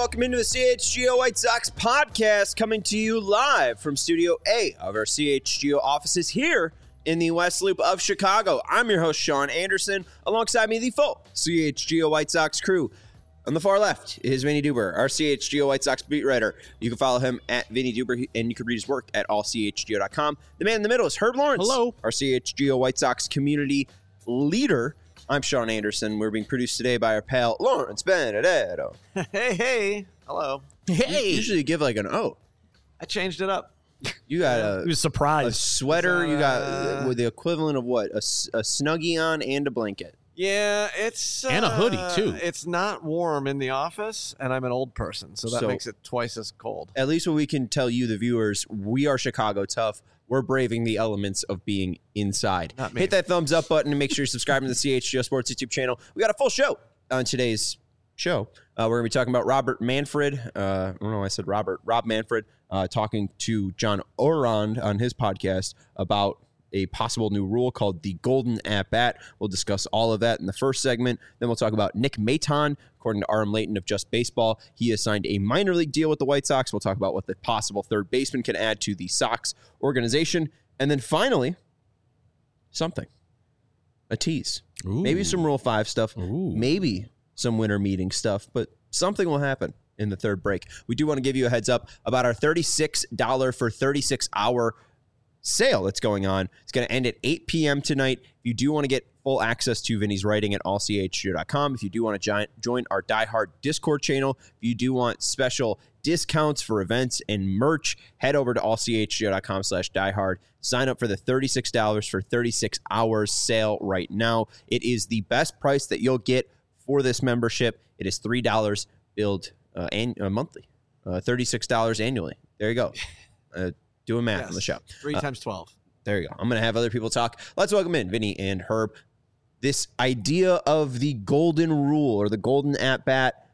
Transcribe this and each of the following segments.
welcome into the CHGO White Sox podcast, coming to you live from Studio A of our CHGO offices here in the West Loop of Chicago. I'm your host, Sean Anderson. Alongside me, the full CHGO White Sox crew. On the far left is Vinny Duber, our CHGO White Sox beat writer. You can follow him at Vinny Duber, and you can read his work at allchgo.com. The man in the middle is Herb Lawrence. Hello. Our CHGO White Sox community leader. I'm Sean Anderson. We're being produced today by our pal, Lawrence Benedetto. Hey. Hello. Hey. Usually you give like an O. I changed it up. You got He was a surprised. sweater. You got with the equivalent of what? A Snuggie on and a blanket. Yeah, it's... And a hoodie, too. It's not warm in the office, and I'm an old person, so that makes it twice as cold. At least what we can tell you, the viewers, we are Chicago tough. We're braving the elements of being inside. Not me. Hit that thumbs up button and make sure you're subscribing to the CHGO Sports YouTube channel. We got a full show on today's show. We're going to be talking about Robert Manfred. I don't know why I said Robert. Rob Manfred talking to John Orand on his podcast about a possible new rule called the Golden At-Bat. We'll discuss all of that in the first segment. Then we'll talk about Nick Maton. According to Aram Layton of Just Baseball, he has signed a minor league deal with the White Sox. We'll talk about what the possible third baseman can add to the Sox organization. And then finally, something. A tease. Ooh. Maybe some Rule 5 stuff. Ooh. Maybe some winter meeting stuff. But something will happen in the third break. We do want to give you a heads up about our $36 for 36-hour sale that's going on. It's going to end at 8 p.m. tonight. If you do want to get full access to Vinny's writing at allchgo.com, if you do want to join our Die Hard Discord channel, if you do want special discounts for events and merch, head over to allchgo.com/diehard. Sign up for the $36 for 36 hours sale right now. It is the best price that you'll get for this membership. It is $3 billed monthly, $36 annually. There you go. Doing math on the show. 3 times 12. There you go. I'm going to have other people talk. Let's welcome in Vinny and Herb. This idea of the golden rule or the golden at-bat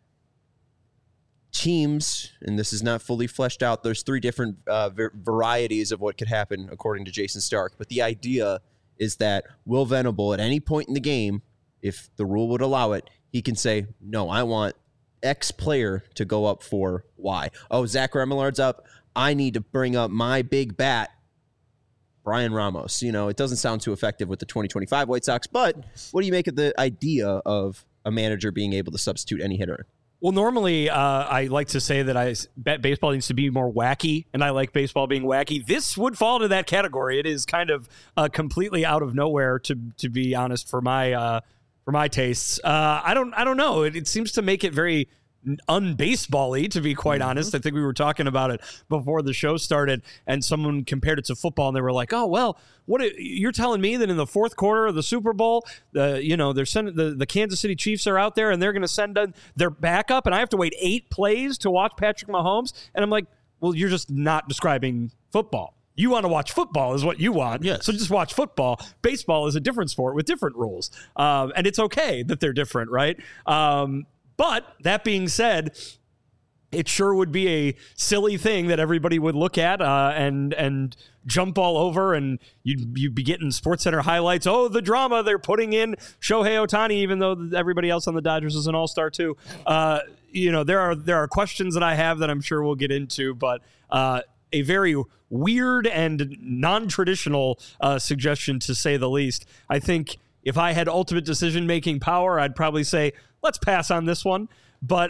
teams, and this is not fully fleshed out. There's 3 different varieties of what could happen according to Jason Stark. But the idea is that Will Venable, at any point in the game, if the rule would allow it, he can say, no, I want X player to go up for Y. Oh, Zach Remillard's up. I need to bring up my big bat, Brian Ramos. You know, it doesn't sound too effective with the 2025 White Sox, but what do you make of the idea of a manager being able to substitute any hitter? Well, normally I like to say that I bet baseball needs to be more wacky, and I like baseball being wacky. This would fall into that category. It is kind of completely out of nowhere, to be honest, for my tastes. I don't know. It seems to make it very unbaseball-y, to be quite honest. I think we were talking about it before the show started, and someone compared it to football, and they were like, "Oh, well, you're telling me that in the fourth quarter of the Super Bowl, they're sending the Kansas City Chiefs are out there, and they're going to send their backup, and I have to wait 8 plays to watch Patrick Mahomes?" And I'm like, "Well, you're just not describing football. You want to watch football is what you want. Yes. So just watch football. Baseball is a different sport with different rules, and it's okay that they're different, right?" But that being said, it sure would be a silly thing that everybody would look at and jump all over, and you'd be getting SportsCenter highlights. Oh, the drama they're putting in Shohei Ohtani, even though everybody else on the Dodgers is an all-star too. There are questions that I have that I'm sure we'll get into, but a very weird and non-traditional suggestion, to say the least. I think if I had ultimate decision-making power, I'd probably say, let's pass on this one. But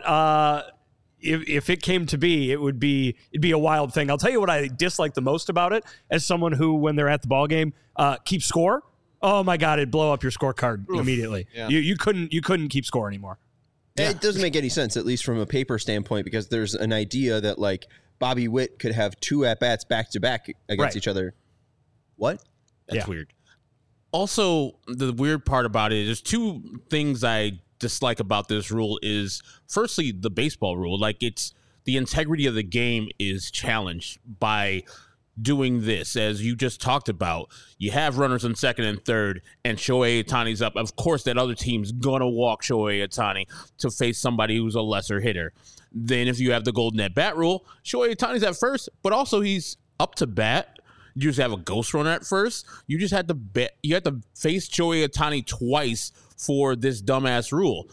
if it came to be, it'd be a wild thing. I'll tell you what I dislike the most about it, as someone who, when they're at the ball game, keeps score. Oh my God, it'd blow up your scorecard immediately. Yeah. You couldn't keep score anymore. Yeah. It doesn't make any sense, at least from a paper standpoint, because there's an idea that like Bobby Witt could have 2 at-bats back-to-back against each other. What? That's weird. Also, the weird part about it is there's 2 things I dislike about this rule is, firstly, the baseball rule. Like, it's the integrity of the game is challenged by doing this. As you just talked about, you have runners on second and third, and Shohei Ohtani's up. Of course, that other team's going to walk Shohei Ohtani to face somebody who's a lesser hitter. Then if you have the golden at-bat rule, Shohei Ohtani's at first, but also he's up to bat. You just have a ghost runner at first. You just had to bet. You had to face Shohei Ohtani twice for this dumbass rule.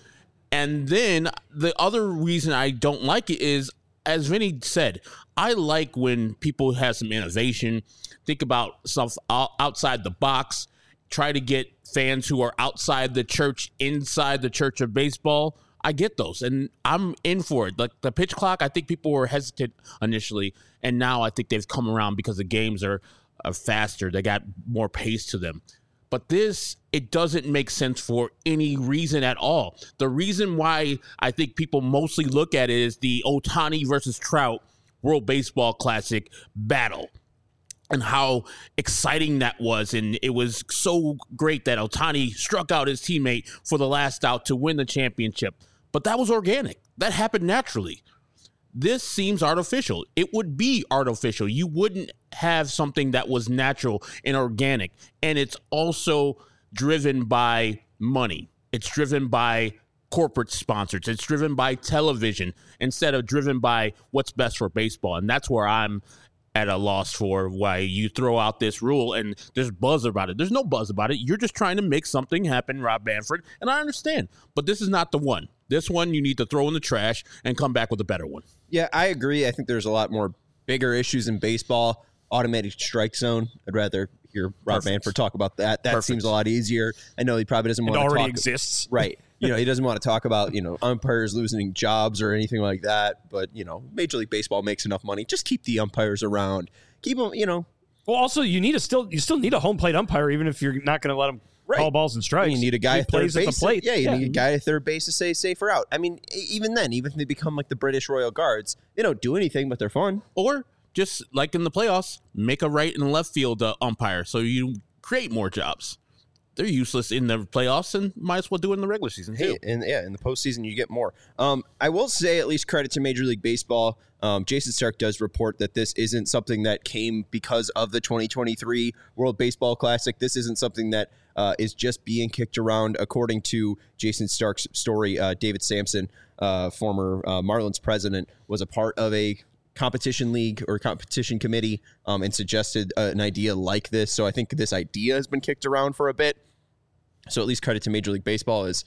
And then the other reason I don't like it is, as Vinny said, I like when people have some innovation, think about stuff outside the box, try to get fans who are outside the church, inside the church of baseball. I get those, and I'm in for it. Like the pitch clock, I think people were hesitant initially, and now I think they've come around because the games are faster. They got more pace to them. But this, it doesn't make sense for any reason at all. The reason why I think people mostly look at it is the Ohtani versus Trout World Baseball Classic battle, and how exciting that was. And it was so great that Ohtani struck out his teammate for the last out to win the championship. But that was organic. That happened naturally. This seems artificial. It would be artificial. You wouldn't have something that was natural and organic. And it's also driven by money. It's driven by corporate sponsors. It's driven by television instead of driven by what's best for baseball. And that's where I'm at a loss for why you throw out this rule and there's buzz about it. There's no buzz about it. You're just trying to make something happen, Rob Manfred, and I understand. But this is not the one. This one you need to throw in the trash and come back with a better one. Yeah, I agree. I think there's a lot more bigger issues in baseball. Automatic strike zone. I'd rather hear Rob Manfred talk about that. That seems a lot easier. I know he probably doesn't want to talk. It already exists. Right. He doesn't want to talk about, umpires losing jobs or anything like that. But, Major League Baseball makes enough money. Just keep the umpires around. Keep them, Well, also, you still need a home plate umpire, even if you're not going to let them call balls and strikes. You need a guy at third base. At the plate. Yeah, you need a guy at third base to say safer out. I mean, even then, even if they become like the British Royal Guards, they don't do anything, but they're fun. Or just like in the playoffs, make a right and left field umpire so you create more jobs. They're useless in the playoffs and might as well do it in the regular season too. In the postseason, you get more. I will say, at least credit to Major League Baseball. Jason Stark does report that this isn't something that came because of the 2023 World Baseball Classic. This isn't something that is just being kicked around. According to Jason Stark's story, David Sampson, former Marlins president, was a part of a competition league or competition committee and suggested an idea like this. So I think this idea has been kicked around for a bit. So at least credit to Major League Baseball is,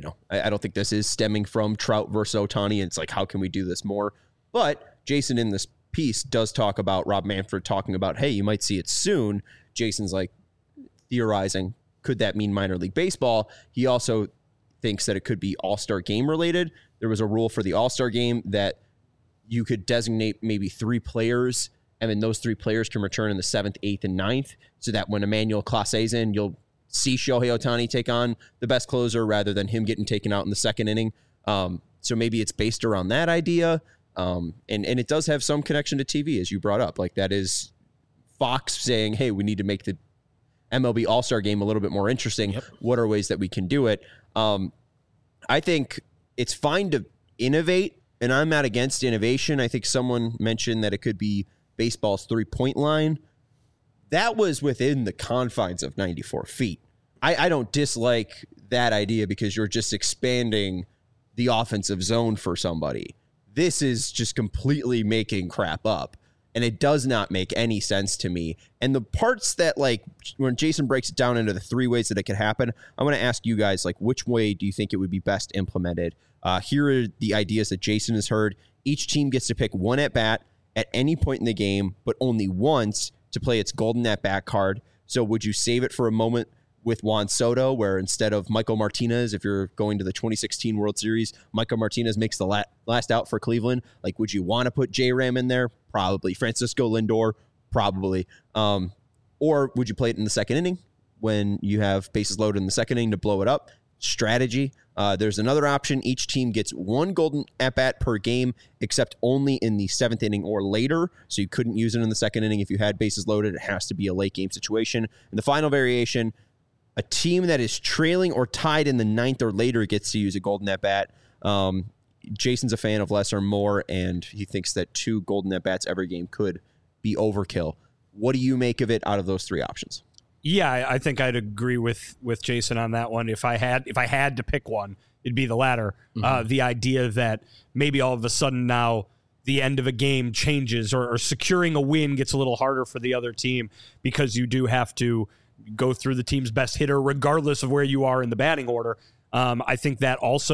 I don't think this is stemming from Trout versus Ohtani. It's like, how can we do this more? But Jason in this piece does talk about Rob Manfred talking about, hey, you might see it soon. Jason's like theorizing, could that mean minor league baseball? He also thinks that it could be all-star game related. There was a rule for the all-star game that you could designate maybe 3 players, and then those 3 players can return in the 7th, 8th, and 9th, so that when Emmanuel Clasé's in, you'll see Shohei Ohtani take on the best closer rather than him getting taken out in the second inning. So maybe it's based around that idea. And it does have some connection to TV, as you brought up. Like, that is Fox saying, hey, we need to make the MLB All-Star Game a little bit more interesting. Yep. What are ways that we can do it? I think it's fine to innovate, and I'm not against innovation. I think someone mentioned that it could be baseball's 3-point line. That was within the confines of 94 feet. I don't dislike that idea because you're just expanding the offensive zone for somebody. This is just completely making crap up, and it does not make any sense to me. And the parts that, like, when Jason breaks it down into the 3 ways that it could happen, I'm going to ask you guys, like, which way do you think it would be best implemented? Here are the ideas that Jason has heard. Each team gets to pick 1 at-bat at any point in the game, but only once to play its golden at-bat card. So would you save it for a moment with Juan Soto, where instead of Michael Martinez, if you're going to the 2016 World Series, Michael Martinez makes the last out for Cleveland? Like, would you want to put J-Ram in there? Probably. Francisco Lindor? Probably. Or would you play it in the second inning when you have bases loaded in the second inning to blow it up? Strategy. There's another option. Each team gets 1 golden at-bat per game, except only in the 7th inning or later. So you couldn't use it in the second inning if you had bases loaded. It has to be a late game situation. And the final variation, a team that is trailing or tied in the 9th or later gets to use a golden at-bat. Jason's a fan of less or more, and he thinks that 2 golden at-bats every game could be overkill. What do you make of it out of those 3 options? Yeah, I think I'd agree with Jason on that one. If I had to pick one, it'd be the latter. Mm-hmm. The idea that maybe all of a sudden now the end of a game changes or securing a win gets a little harder for the other team because you do have to go through the team's best hitter regardless of where you are in the batting order. I think that also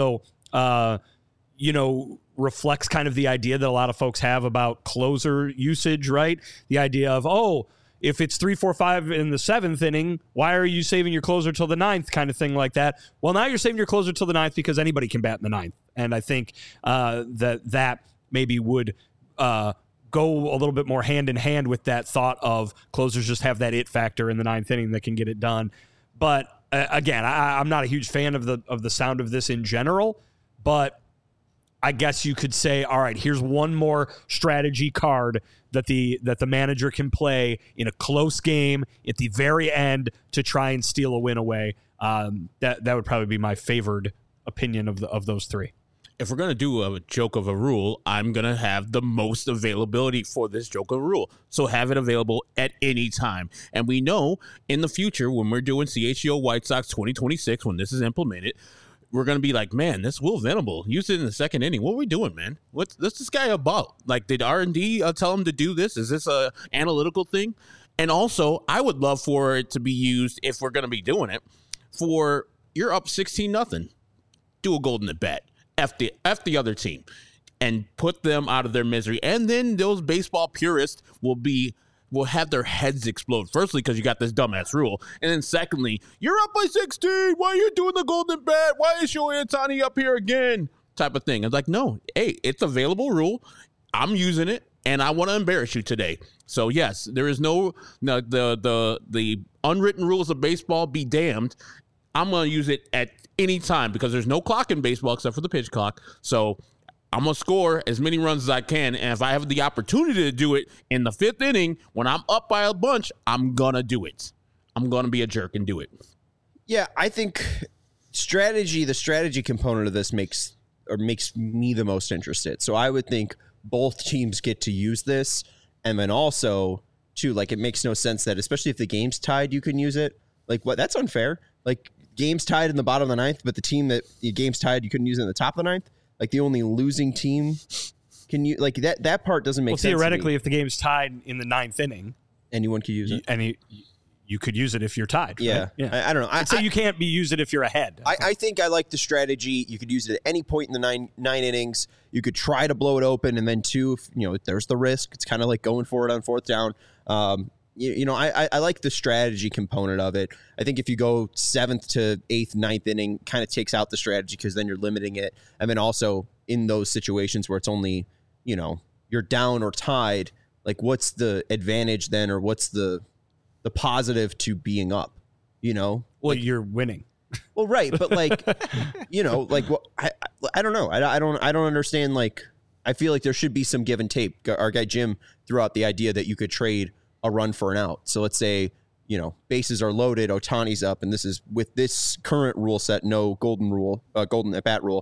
reflects kind of the idea that a lot of folks have about closer usage, right? The idea of, if it's 3, 4, 5 in the 7th inning, why are you saving your closer till the 9th, kind of thing like that? Well, now you're saving your closer till the 9th because anybody can bat in the 9th. And I think that maybe would go a little bit more hand in hand with that thought of closers just have that it factor in the 9th inning that can get it done. But again, I'm not a huge fan of the sound of this in general, but I guess you could say, all right, here's one more strategy card that the manager can play in a close game at the very end to try and steal a win away. That would probably be my favored opinion of those three. If we're going to do a joke of a rule, I'm going to have the most availability for this joke of a rule. So have it available at any time. And we know in the future when we're doing CHGO White Sox 2026, when this is implemented, we're going to be like, man, this Will Venable, use it in the 2nd inning. What are we doing, man? What's this guy about? Like, did R&D tell him to do this? Is this a analytical thing? And also, I would love for it to be used, if we're going to be doing it, for you're up 16-0. Do a golden at bat. F the other team and put them out of their misery. And then those baseball purists will have their heads explode. Firstly, because you got this dumbass rule. And then secondly, you're up by 16. Why are you doing the golden bat? Why is Shohei Ohtani up here again? Type of thing. It's like, no, hey, it's available rule. I'm using it, and I want to embarrass you today. So, yes, there is no the unwritten rules of baseball be damned. I'm going to use it at any time because there's no clock in baseball except for the pitch clock. So I'm going to score as many runs as I can. And if I have the opportunity to do it in the 5th inning, when I'm up by a bunch, I'm going to do it. I'm going to be a jerk and do it. Yeah, I think the strategy component of this makes me the most interested. So I would think both teams get to use this. And then also, too, like, it makes no sense that, especially if the game's tied, you can use it. Like, what? That's unfair. Like, game's tied in the bottom of the 9th, but the team that the game's tied, you couldn't use it in the top of the 9th. Like, the only losing team can you like that part doesn't make sense. Well, theoretically, if the game's tied in the 9th inning, anyone could use it. You could use it if you're tied. Yeah, right? Yeah. I don't know. So you can't use it if you're ahead. I think I like the strategy. You could use it at any point in the nine innings. You could try to blow it open, and then there's the risk. It's kind of like going for it on 4th down. I like the strategy component of it. I think if you go 7th to 8th, 9th inning, kind of takes out the strategy because then you're limiting it. And then also in those situations where it's only, you're down or tied, like what's the advantage then, or what's the positive to being up, Well, you're winning. Well, right. But like, I don't know. I don't understand. Like, I feel like there should be some give and take. Our guy Jim threw out the idea that you could trade a run for an out. So let's say, bases are loaded, Ohtani's up, and this is with this current rule set, no golden at bat rule.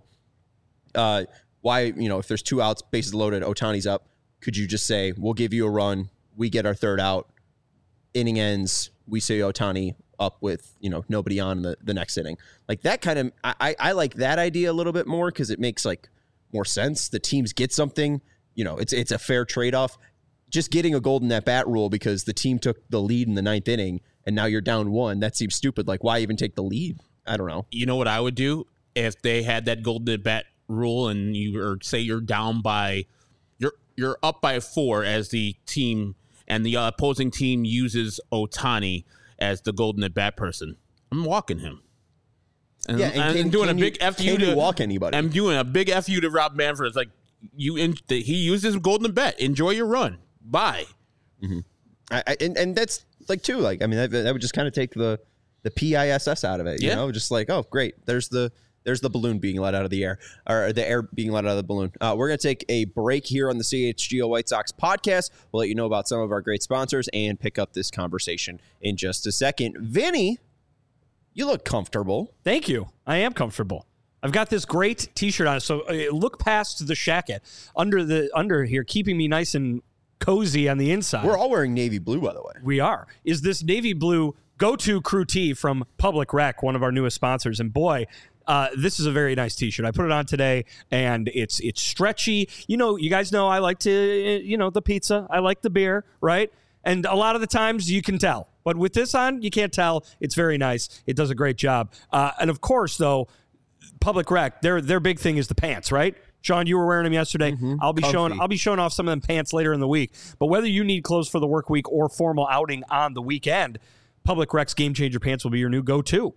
Why, if there's 2 outs, bases loaded, Ohtani's up, could you just say, we'll give you a run, we get our 3rd out, inning ends, we say Ohtani up with, nobody on the next inning. Like that kind of, I like that idea a little bit more because it makes like more sense. The teams get something, it's a fair trade-off. Just getting a golden at bat rule because the team took the lead in the 9th inning and now you're down 1, that seems stupid. Like, why even take the lead? I don't know. You know what I would do if they had that golden at bat rule and say you're down by, you're up by 4 as the team and the opposing team uses Ohtani as the golden at bat person. I'm walking him. And, I'm doing a big FU to walk anybody. I'm doing a big FU to Rob Manfred. It's like he uses golden at bat. Enjoy your run. Bye. Mm-hmm. And that's like too. Like, I mean, that would just kind of take the PISS out of it. You know, just like, oh, great. There's the balloon being let out of the air, or the air being let out of the balloon. We're going to take a break here on the CHGO White Sox podcast. We'll let you know about some of our great sponsors and pick up this conversation in just a second. Vinny, you look comfortable. Thank you. I am comfortable. I've got this great T-shirt on. So look past the shacket under here, keeping me nice and cozy on the inside. We're all wearing navy blue, by the way. We are. Is this navy blue go-to crew tee from Public Rec, one of our newest sponsors? And boy, this is a very nice T-shirt. I put it on today, and it's stretchy. You guys know I like to, the pizza. I like the beer, right? And a lot of the times you can tell. But with this on, you can't tell. It's very nice. It does a great job. And of course, though, Public Rec, their big thing is the pants, right? Sean, you were wearing them yesterday. Mm-hmm. I'll be showing off some of them pants later in the week. But whether you need clothes for the work week or formal outing on the weekend, Public Rec's Game Changer pants will be your new go-to.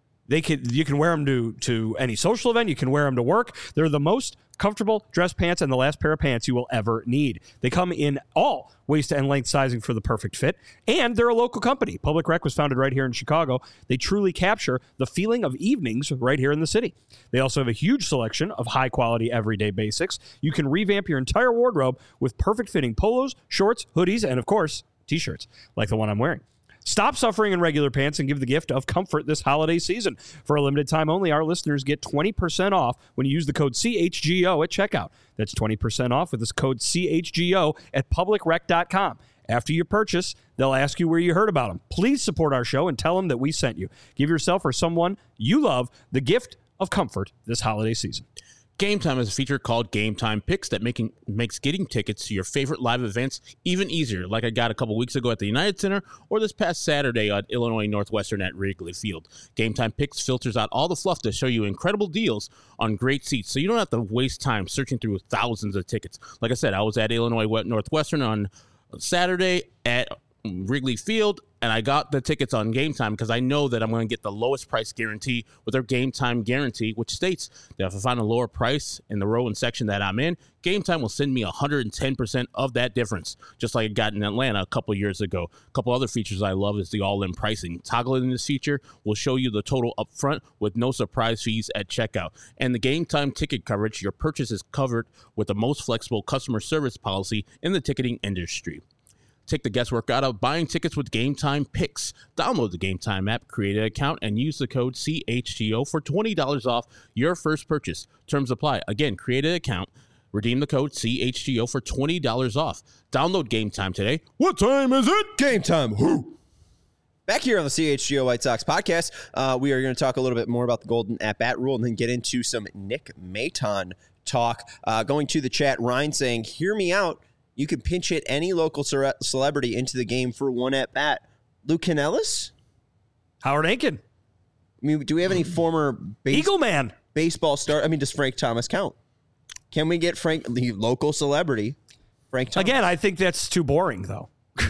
You can wear them to any social event. You can wear them to work. They're the most comfortable dress pants and the last pair of pants you will ever need. They come in all waist and length sizing for the perfect fit, and they're a local company. Public Rec was founded right here in Chicago. They truly capture the feeling of evenings right here in the city. They also have a huge selection of high-quality everyday basics. You can revamp your entire wardrobe with perfect-fitting polos, shorts, hoodies, and, of course, T-shirts like the one I'm wearing. Stop suffering in regular pants and give the gift of comfort this holiday season. For a limited time only, our listeners get 20% off when you use the code CHGO at checkout. That's 20% off with this code CHGO at publicrec.com. After you purchase, they'll ask you where you heard about them. Please support our show and tell them that we sent you. Give yourself or someone you love the gift of comfort this holiday season. Game Time is a feature called Game Time Picks that makes getting tickets to your favorite live events even easier, like I got a couple weeks ago at the United Center or this past Saturday at Illinois Northwestern at Wrigley Field. Game Time Picks filters out all the fluff to show you incredible deals on great seats, so you don't have to waste time searching through thousands of tickets. Like I said, I was at Illinois Northwestern on Saturday at Wrigley Field, and I got the tickets on Game Time because I know that I'm going to get the lowest price guarantee with their Game Time guarantee, which states that if I find a lower price in the row and section that I'm in, Game Time will send me 110% of that difference, just like it got in Atlanta a couple years ago. A couple other features I love is the all-in pricing. Toggling this feature will show you the total up front with no surprise fees at checkout. And the Game Time ticket coverage, your purchase is covered with the most flexible customer service policy in the ticketing industry. Take the guesswork out of buying tickets with Game Time Picks. Download the Game Time app, create an account, and use the code CHGO for $20 off your first purchase. Terms apply. Again, create an account, redeem the code CHGO for $20 off. Download Game Time today. What time is it? Game time. Who? Back here on the CHGO White Sox podcast, we are going to talk a little bit more about the Golden At-Bat rule and then get into some Nick Maton talk. Going to the chat, Ryan saying, hear me out. You can pinch hit any local celebrity into the game for one at-bat. Luke Canellis? Howard Aiken. I mean, do we have any former Eagle Man baseball star? I mean, does Frank Thomas count? Can we get the local celebrity, Frank Thomas? Again, I think that's too boring, though.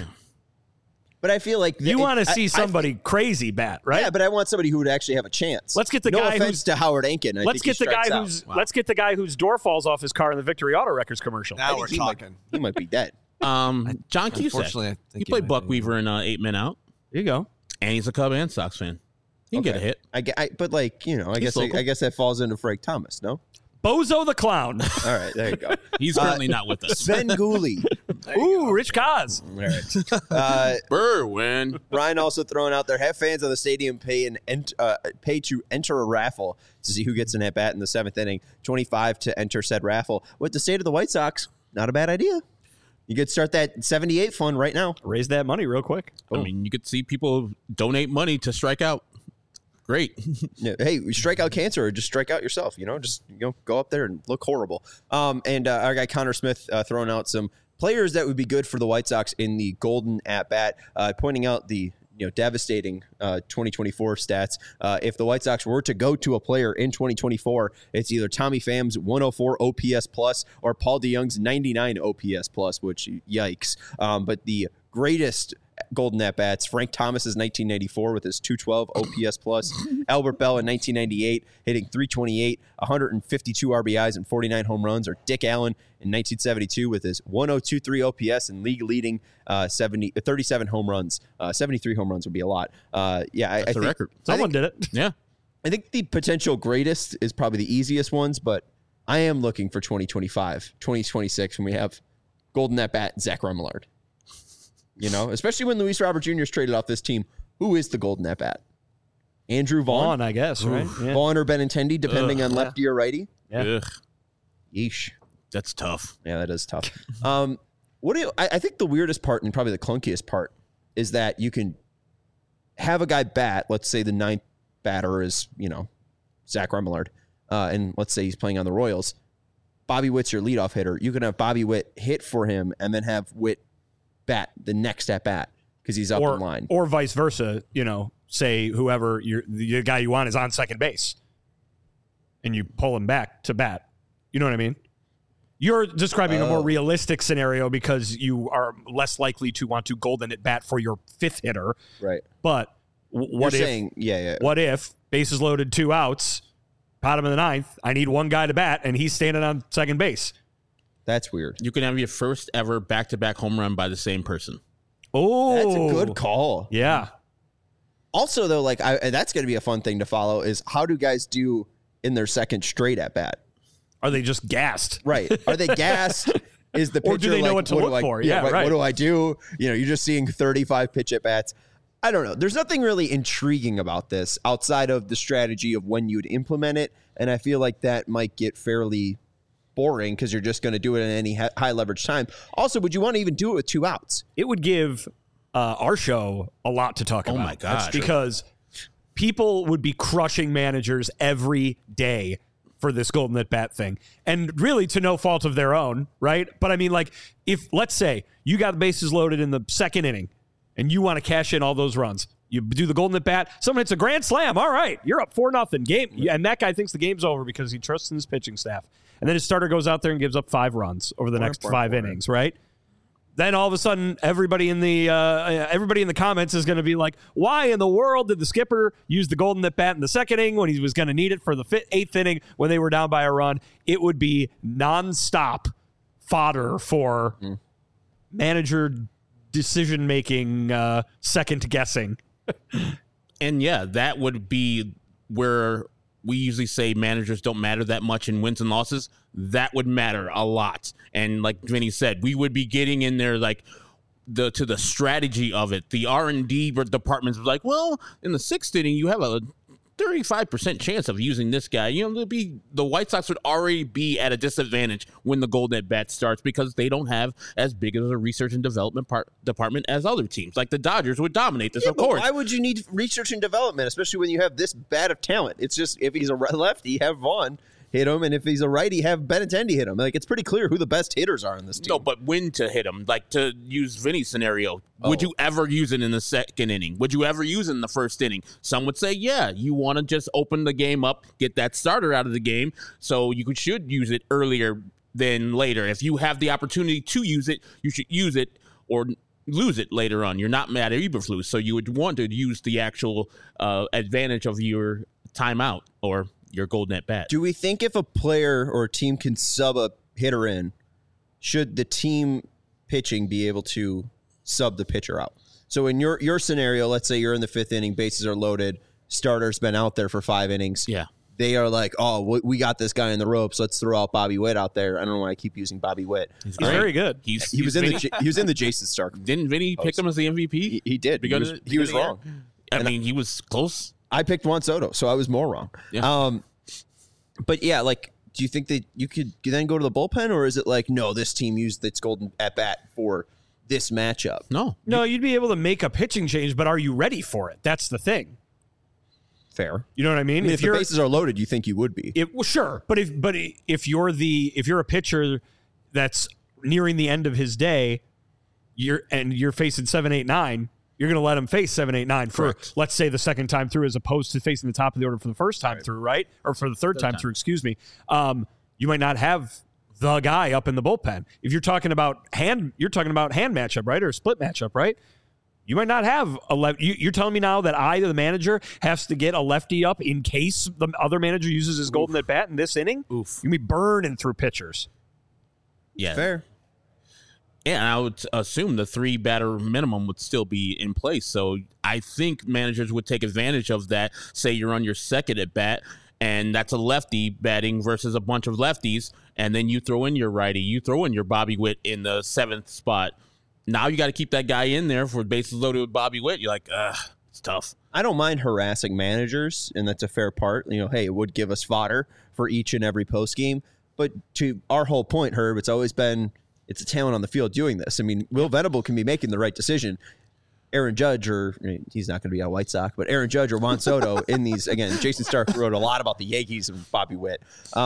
But I feel like you want to see somebody crazy bat, right? Yeah, but I want somebody who would actually have a chance. Let's get the no guy offense who's to Howard Aiken. Let's get the guy whose door falls off his car in the Victory Auto Wreckers commercial. Now we're talking. He might be dead. John Cusack. He played Buck Weaver in 8 Men Out. There you go. And he's a Cub and Sox fan. He can get a hit. But like, you know, I guess that falls into Frank Thomas, no? Bozo the Clown. All right, there you go. He's currently not with us. Sven Gooley. Ooh, Rich Kaz. All right. Berwin. Ryan also throwing out there, have fans of the stadium pay to enter a raffle to see who gets an at-bat in the 7th inning. $25 to enter said raffle. With the state of the White Sox, not a bad idea. You could start that 78 fund right now. Raise that money real quick. I mean, you could see people donate money to strike out. Great. Yeah, hey, strike out cancer or just strike out yourself, just go up there and look horrible. And our guy Connor Smith throwing out some players that would be good for the White Sox in the Golden At-Bat, pointing out the devastating 2024 stats. If the White Sox were to go to a player in 2024, it's either Tommy Pham's 104 OPS plus or Paul DeYoung's 99 OPS plus, which yikes. But the greatest Golden At-Bats, Frank Thomas's 1994 with his 212 OPS plus, Albert Bell in 1998 hitting 328, 152 RBIs and 49 home runs, or Dick Allen in 1972 with his 1023 OPS and league leading 37 home runs. 73 home runs would be a lot. That's a record. Someone did it. Yeah. I think the potential greatest is probably the easiest ones, but I am looking for 2025, 2026 when we have Golden At-Bat Zach Remillard. Especially when Luis Robert Jr. is traded off this team. Who is the Golden At-Bat? Andrew Vaughn, I guess, right? Yeah. Vaughn or Benintendi, depending on lefty or righty. Yeah. Ugh. Yeesh. That's tough. Yeah, that is tough. I think the weirdest part and probably the clunkiest part is that you can have a guy bat. Let's say the 9th batter is, Zach Remillard, and let's say he's playing on the Royals. Bobby Witt's your leadoff hitter. You can have Bobby Witt hit for him and then have Witt bat the next at bat because he's up in line, or vice versa. Say whoever the guy you want is on second base, and you pull him back to bat. You know what I mean? You're describing a more realistic scenario because you are less likely to want to golden at bat for your fifth hitter. Right. But what if bases loaded, 2 outs, bottom of the ninth, I need one guy to bat, and he's standing on second base? That's weird. You can have your first ever back-to-back home run by the same person. Oh, that's a good call. Yeah. Also, though, like that's going to be a fun thing to follow is how do guys do in their second straight at bat? Are they just gassed? Right. Are they gassed? Is the pitcher or do they know what to look for? Yeah, right. What do I do? You know, you're just seeing 35 pitch at bats. I don't know. There's nothing really intriguing about this outside of the strategy of when you'd implement it. And I feel like that might get fairly boring because you're just going to do it in any high leverage time. Also, would you want to even do it with 2 outs? It would give our show a lot to talk about. Oh, my God. Because people would be crushing managers every day for this golden at bat thing, and really to no fault of their own, right? But I mean, like, if let's say you got the bases loaded in the second inning and you want to cash in all those runs, you do the golden at bat, someone hits a grand slam, all right, you're up 4-0 game, and that guy thinks the game's over because he trusts in his pitching staff, and then his starter goes out there and gives up 5 runs over the next 5 innings, right? Then all of a sudden, everybody in the comments is going to be like, "Why in the world did the skipper use the golden at bat in the second inning when he was going to need it for the 8th inning when they were down by a run?" It would be nonstop fodder for manager decision making, second guessing. And yeah, that would be where we usually say managers don't matter that much in wins and losses. That would matter a lot. And like Vinny said, we would be getting in there like to the strategy of it. The R&D departments was like, well, in the 6th inning, you have a 35% chance of using this guy. You know, the White Sox would already be at a disadvantage when the golden at bat starts because they don't have as big of a research and development department as other teams. Like the Dodgers would dominate this, of course. Why would you need research and development, especially when you have this bad of talent? It's just if he's a lefty, have Vaughn hit him, and if he's a righty, have Benintendi hit him. Like, it's pretty clear who the best hitters are in this team. No, but when to hit him. Like, to use Vinny's scenario, would you ever use it in the second inning? Would you ever use it in the first inning? Some would say, yeah, you want to just open the game up, get that starter out of the game, so you should use it earlier than later. If you have the opportunity to use it, you should use it or lose it later on. You're not Matt Eberflus, so you would want to use the actual advantage of your timeout or your golden at bat. Do we think if a player or a team can sub a hitter in, should the team pitching be able to sub the pitcher out? So in your scenario, let's say you're in the 5th inning, bases are loaded, starter's been out there for 5 innings. Yeah. They are like, oh, we got this guy in the ropes. Let's throw out Bobby Witt out there. I don't know why I keep using Bobby Witt. He's very good. He was in the Jason Stark. Didn't Vinny pick him as the MVP? He did. He was wrong. I mean, he was close. I picked Juan Soto, so I was more wrong. Yeah. But yeah, like, do you think that you could then go to the bullpen, or is it like, no, this team used its golden at bat for this matchup? No, you'd be able to make a pitching change, but are you ready for it? That's the thing. Fair. You know what I mean? If the bases are loaded, you think you would be. Well, sure, but if you're a pitcher that's nearing the end of his day, you're facing 7, 8, 9. You're going to let him face 7, 8, 9 for, let's say, the second time through, as opposed to facing the top of the order for the first time through, right? Or for the third time through, excuse me. You might not have the guy up in the bullpen. If you're talking about hand matchup, right? Or a split matchup, right? You might not have a left. You're telling me now that the manager, has to get a lefty up in case the other manager uses his golden at bat in this inning? Oof. You'll be burning through pitchers. Yeah. Fair. Yeah, and I would assume the 3 batter minimum would still be in place. So I think managers would take advantage of that. Say you're on your second at bat, and that's a lefty batting versus a bunch of lefties, and then you throw in your righty, you throw in your Bobby Witt in the 7th spot. Now you got to keep that guy in there for bases loaded with Bobby Witt. You're like, it's tough. I don't mind harassing managers, and that's a fair part. You know, hey, it would give us fodder for each and every post game. But to our whole point, Herb, it's always been, it's a talent on the field doing this. I mean, Will Venable can be making the right decision. Aaron Judge, or he's not going to be a White Sox, but Aaron Judge or Juan Soto in these, again, Jason Stark wrote a lot about the Yankees and Bobby Witt.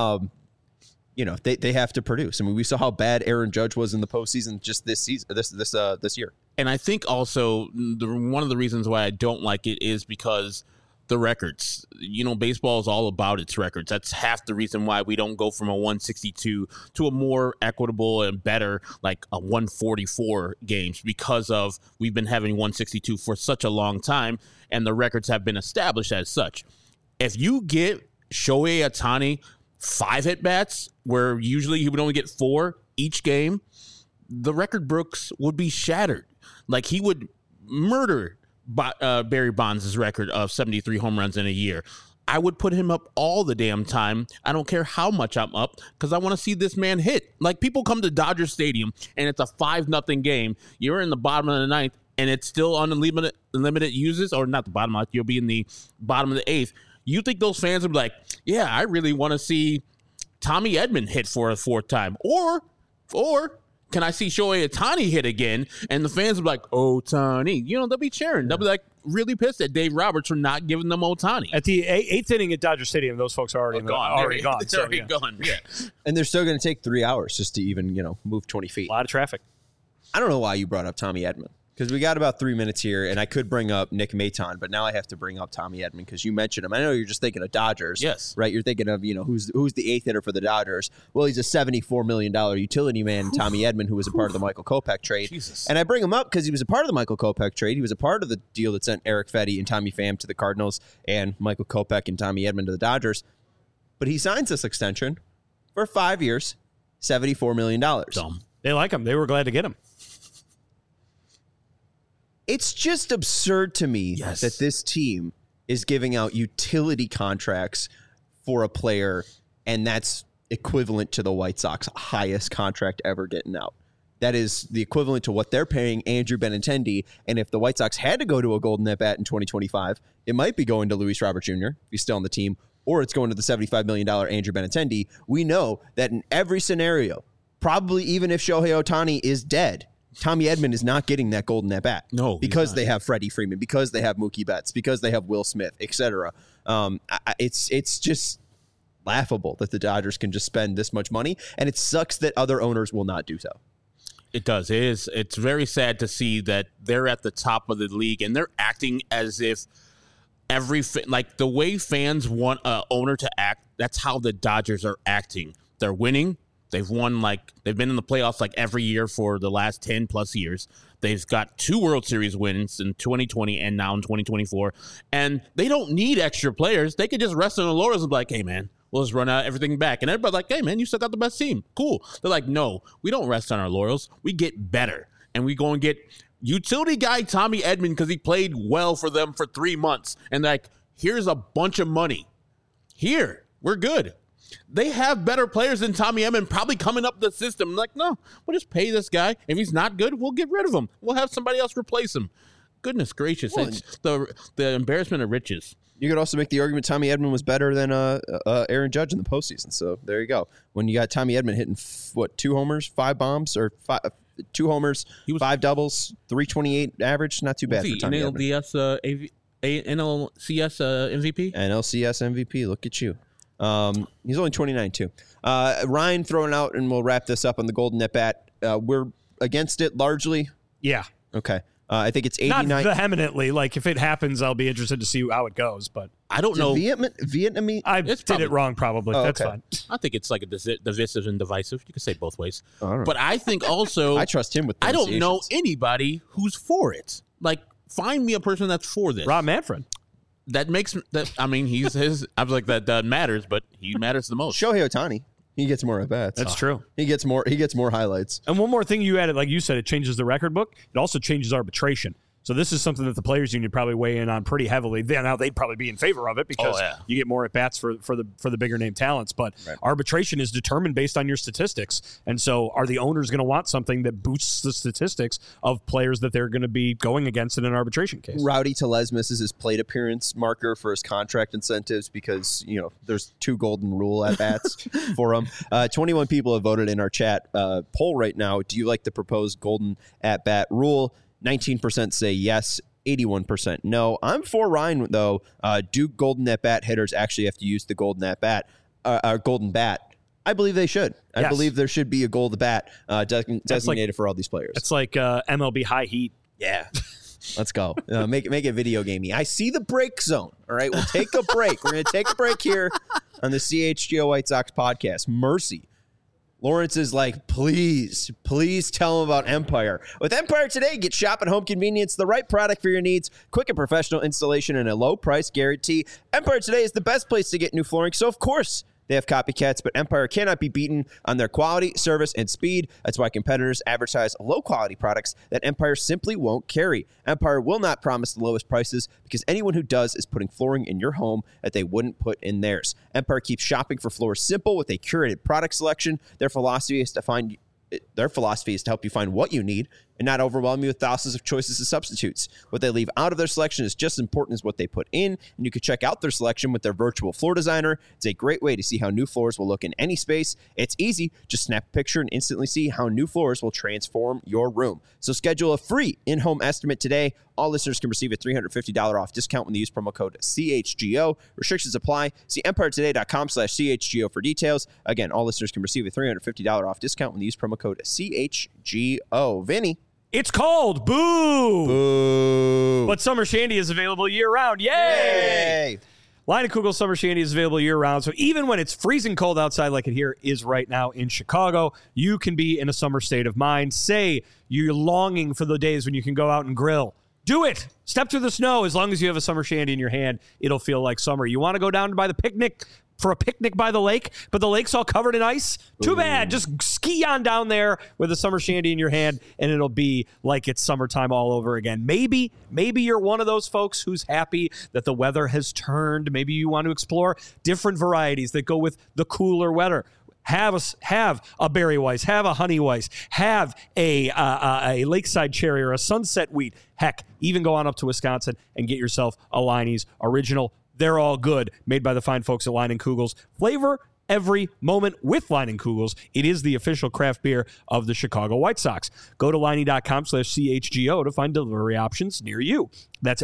They have to produce. I mean, we saw how bad Aaron Judge was in the postseason just this season, this year. And I think also one of the reasons why I don't like it is because the records. Baseball is all about its records. That's half the reason why we don't go from a 162 to a more equitable and better, like a 144 games, because of we've been having 162 for such a long time, and the records have been established as such. If you get Shohei Ohtani 5 at-bats, where usually he would only get 4 each game, the record books would be shattered. Like, he would murder Barry Bonds' record of 73 home runs in a year. I would put him up all the damn time. I don't care how much I'm up, because I want to see this man hit. Like, people come to Dodger Stadium and it's a 5-0 game. You're in the bottom of the ninth and it's still unlimited uses, or not the bottom of it, you'll be in the bottom of the 8th. You think those fans would be like, yeah, I really want to see Tommy Edman hit for a 4th time, or can I see Shohei Ohtani hit again? And the fans will be like, Ohtani. They'll be cheering. They'll be like really pissed at Dave Roberts for not giving them Ohtani. At the 8th inning at Dodger Stadium, those folks are already gone. They're already gone. Yeah. And they're still going to take 3 hours just to even, move 20 feet. A lot of traffic. I don't know why you brought up Tommy Edman, because we got about 3 minutes here, and I could bring up Nick Maton, but now I have to bring up Tommy Edman because you mentioned him. I know you're just thinking of Dodgers. Yes. Right? You're thinking of, who's the 8th hitter for the Dodgers. Well, he's a $74 million utility man, Tommy Edman, who was a part of the Michael Kopech trade. Jesus. And I bring him up because he was a part of the Michael Kopech trade. He was a part of the deal that sent Eric Fetty and Tommy Pham to the Cardinals and Michael Kopech and Tommy Edman to the Dodgers. But he signs this extension for 5 years, $74 million. Dumb. They like him. They were glad to get him. It's just absurd to me that this team is giving out utility contracts for a player, and that's equivalent to the White Sox highest contract ever getting out. That is the equivalent to what they're paying Andrew Benintendi, and if the White Sox had to go to a golden at-bat in 2025, it might be going to Luis Robert Jr., if he's still on the team, or it's going to the $75 million Andrew Benintendi. We know that in every scenario, probably even if Shohei Ohtani is dead, Tommy Edman is not getting that golden at bat. No, because they have Freddie Freeman, because they have Mookie Betts, because they have Will Smith, etc. It's just laughable that the Dodgers can just spend this much money, and it sucks that other owners will not do so. It does. It is. It's very sad to see that they're at the top of the league and they're acting as if like the way fans want an owner to act. That's how the Dodgers are acting. They're winning. They've won, they've been in the playoffs every year for the last 10 plus years. They've got 2 World Series wins in 2020 and now in 2024. And they don't need extra players. They could just rest on the laurels and be like, hey, man, we'll just run everything back. And everybody's like, hey, man, you still got the best team. Cool. They're like, no, we don't rest on our laurels. We get better. And we go and get utility guy Tommy Edman because he played well for them for 3 months. And here's a bunch of money. Here, we're good. They have better players than Tommy Edman probably coming up the system. No, we'll just pay this guy. If he's not good, we'll get rid of him. We'll have somebody else replace him. Goodness gracious. It's the embarrassment of riches. You could also make the argument Tommy Edman was better than Aaron Judge in the postseason. So there you go. When you got Tommy Edman hitting, 2 homers, 5 bombs, or 2 homers, 5 doubles, 328 average, not too bad for Tommy Edman. NLCS MVP? NLCS MVP. Look at you. He's only 29 too. Ryan throwing out, and we'll wrap this up on the golden at bat. We're against it largely. Yeah. Okay. I think it's 89. Not vehemently. If it happens, I'll be interested to see how it goes. But I don't know. Vietnamese. I did it wrong. Probably. That's fine. I think it's divisive and divisive. You can say both ways. But I think also I trust him with. I don't know anybody who's for it. Find me a person that's for this. Rob Manfred. That makes that. I mean, he's his. I was like that matters, but he matters the most. Shohei Ohtani, he gets more at bats. That's true. He gets more highlights. And one more thing you added, like you said, it changes the record book. It also changes arbitration. So this is something that the players union probably weigh in on pretty heavily. Now they'd probably be in favor of it because you get more at bats for the bigger name talents. But arbitration is determined based on your statistics, and so are the owners going to want something that boosts the statistics of players that they're going to be going against in an arbitration case? Rowdy Tellez misses his plate appearance marker for his contract incentives because there's 2 golden rule at bats for him. 21 people have voted in our chat poll right now. Do you like the proposed golden at bat rule? 19% say yes, 81% no. I'm for Ryan, though. Do golden at-bat hitters actually have to use the golden at-bat, golden bat? I believe they should. Yes. I believe there should be a golden bat designated for all these players. It's like MLB high heat. Yeah. Let's go. Make it video gamey. I see the break zone. All right, we'll take a break. We're going to take a break here on the CHGO White Sox podcast. Mercy. Lawrence is like, please tell him about Empire. With Empire today, get shop at home convenience, the right product for your needs, quick and professional installation, and a low price guarantee. Empire today is the best place to get new flooring, so of course they have copycats, but Empire cannot be beaten on their quality, service, and speed. That's why competitors advertise low-quality products that Empire simply won't carry. Empire will not promise the lowest prices because anyone who does is putting flooring in your home that they wouldn't put in theirs. Empire keeps shopping for floors simple with a curated product selection. Their philosophy is to help you find what you need and not overwhelm you with thousands of choices and substitutes. What they leave out of their selection is just as important as what they put in, and you can check out their selection with their virtual floor designer. It's a great way to see how new floors will look in any space. It's easy. Just snap a picture and instantly see how new floors will transform your room. So schedule a free in-home estimate today. All listeners can receive a $350 off discount when they use promo code CHGO. Restrictions apply. See EmpireToday.com/CHGO for details. Again, all listeners can receive a $350 off discount when they use promo code CHGO. Vinny. It's cold. Boo. Boo. But Summer Shandy is available year-round. Yay! Leinenkugel Summer Shandy is available year-round. So even when it's freezing cold outside like it here is right now in Chicago, you can be in a summer state of mind. Say you're longing for the days when you can go out and grill. Do it. Step through the snow. As long as you have a Summer Shandy in your hand, it'll feel like summer. You want to go down by the picnic for a picnic by the lake, but the lake's all covered in ice? Too bad. Just ski on down there with a Summer Shandy in your hand, and it'll be like it's summertime all over again. Maybe you're one of those folks who's happy that the weather has turned. Maybe you want to explore different varieties that go with the cooler weather. Have a Berry Weiss, have a Honey Weiss, have a Lakeside Cherry or a Sunset Wheat. Heck, even go on up to Wisconsin and get yourself a Leinie's Original. They're all good, made by the fine folks at Leinenkugels. Flavor every moment with Leinenkugels. It is the official craft beer of the Chicago White Sox. Go to Leinie.com/CHGO to find delivery options near you. That's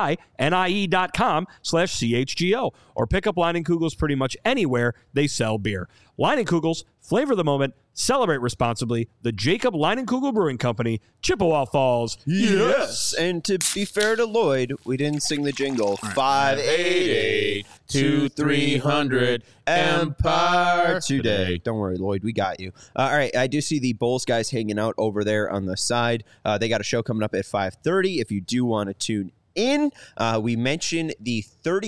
LEINIE.com/CHGO. Or pick up Leinenkugels pretty much anywhere they sell beer. Leinenkugels, flavor the moment, celebrate responsibly. The Jacob Leinenkugel Brewing Company, Chippewa Falls. Yes. And to be fair to Lloyd, we didn't sing the jingle. 588-2300 Empire today. Don't worry, Lloyd, we got you. All right, I do see the Bulls guys hanging out over there on the side. They got a show coming up at 5:30 if you do want to tune in. We mentioned the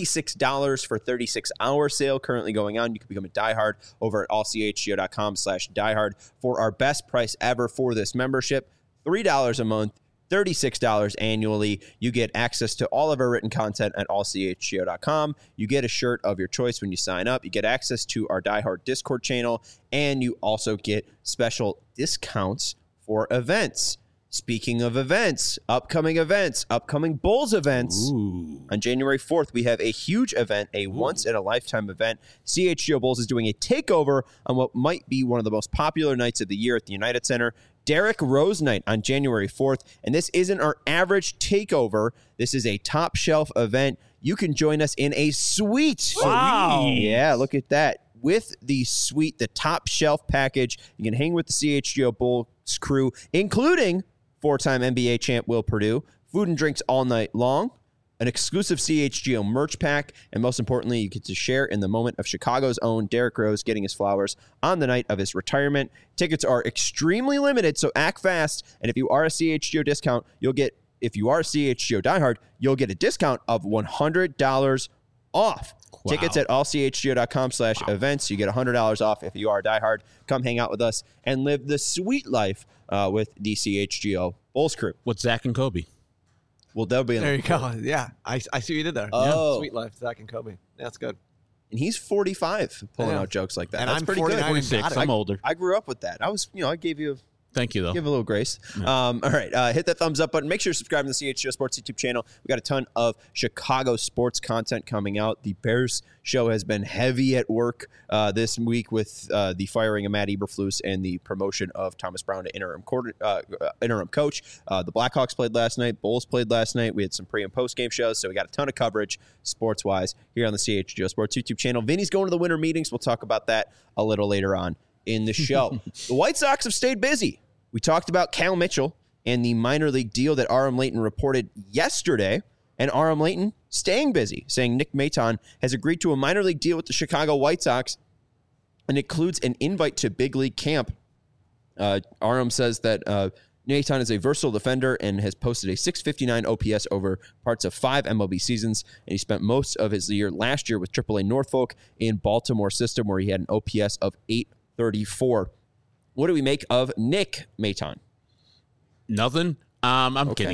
$36 for 36-hour sale currently going on. You can become a diehard over at allchgo.com/diehard for our best price ever for this membership. $3 a month, $36 annually. You get access to all of our written content at allchgo.com. You get a shirt of your choice when you sign up. You get access to our diehard Discord channel, and you also get special discounts for events. Speaking of events, upcoming Bulls events. Ooh. On January 4th, we have a huge event, a once-in-a-lifetime event. CHGO Bulls is doing a takeover on what might be one of the most popular nights of the year at the United Center, Derrick Rose Night on January 4th. And this isn't our average takeover. This is a top-shelf event. You can join us in a suite. Wow. Yeah, look at that. With the suite, the top-shelf package, you can hang with the CHGO Bulls crew, including four-time NBA champ Will Perdue, food and drinks all night long, an exclusive CHGO merch pack, and most importantly, you get to share in the moment of Chicago's own Derrick Rose getting his flowers on the night of his retirement. Tickets are extremely limited, so act fast. And if you are a CHGO discount, if you are a CHGO diehard, you'll get a discount of $100 off. Wow. Tickets at allchgo.com/events. You get $100 off if you are a diehard. Come hang out with us and live the sweet life with the CHGO Bulls crew. With Zach and Kobe. Well, they'll be in There you go. Yeah, I see what you did there. Oh. Yeah. Sweet life, Zach and Kobe. Yeah, that's good. And he's 45 pulling Yeah. out jokes like that. And That's I'm pretty 49 good. and 26. got it. I'm older. I grew up with that. I gave you Thank you, though. give a little grace. All right. Hit that thumbs up button. Make sure to subscribe to the CHGO Sports YouTube channel. We got a ton of Chicago sports content coming out. The Bears show has been heavy at work this week with the firing of Matt Eberflus and the promotion of Thomas Brown to interim coach. The Blackhawks played last night. Bulls played last night. We had some pre- and post-game shows, so we got a ton of coverage sports-wise here on the CHGO Sports YouTube channel. Vinny's going to the winter meetings. We'll talk about that a little later on in the show. The White Sox have stayed busy. We talked about Cal Mitchell and the minor league deal that Aram Leighton reported yesterday. And Aram Leighton staying busy, saying Nick Maton has agreed to a minor league deal with the Chicago White Sox and includes an invite to big league camp. Aram says that Maton is a versatile defender and has posted a .659 OPS over parts of 5 MLB seasons. And he spent most of his year last year with AAA Norfolk in Baltimore system, where he had an OPS of .834. What do we make of Nick Maton? Nothing. I'm kidding.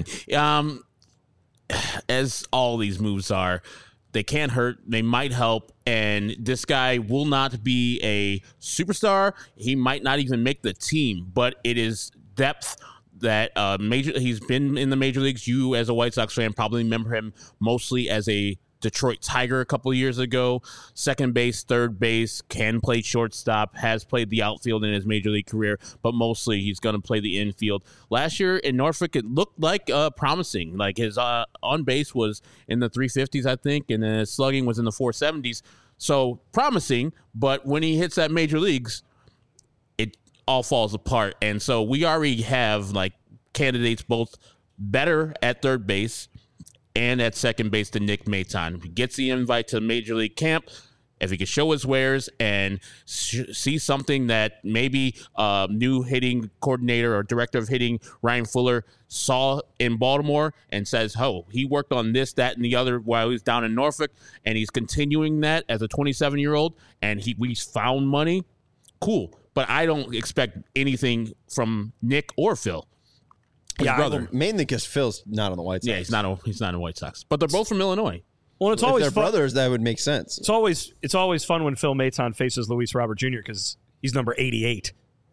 As all these moves are, they can't hurt. They might help. And this guy will not be a superstar. He might not even make the team, but it is depth that he's been in the major leagues. You, as a White Sox fan, probably remember him mostly as a Detroit Tiger a couple of years ago. Second base, third base, can play shortstop, has played the outfield in his major league career, but mostly he's going to play the infield. Last year in Norfolk, it looked like promising. Like his on base was in the 350s, I think, and then his slugging was in the 470s. So promising, but when he hits that major leagues, it all falls apart. And so we already have like candidates both better at third base and at second base than Nick Maton. If he gets the invite to Major League camp, if he can show his wares and see something that maybe new hitting coordinator or director of hitting Ryan Fuller saw in Baltimore and says, oh, he worked on this, that, and the other while he was down in Norfolk, and he's continuing that as a 27-year-old, and we found money, cool. But I don't expect anything from Nick or Phil. Brother. Mainly because Phil's not on the White Sox. Yeah, he's not a White Sox. But they're both from Illinois. Well, it's always if they're brothers, that would make sense. It's always fun when Phil Maton faces Luis Robert Jr. because he's number 88,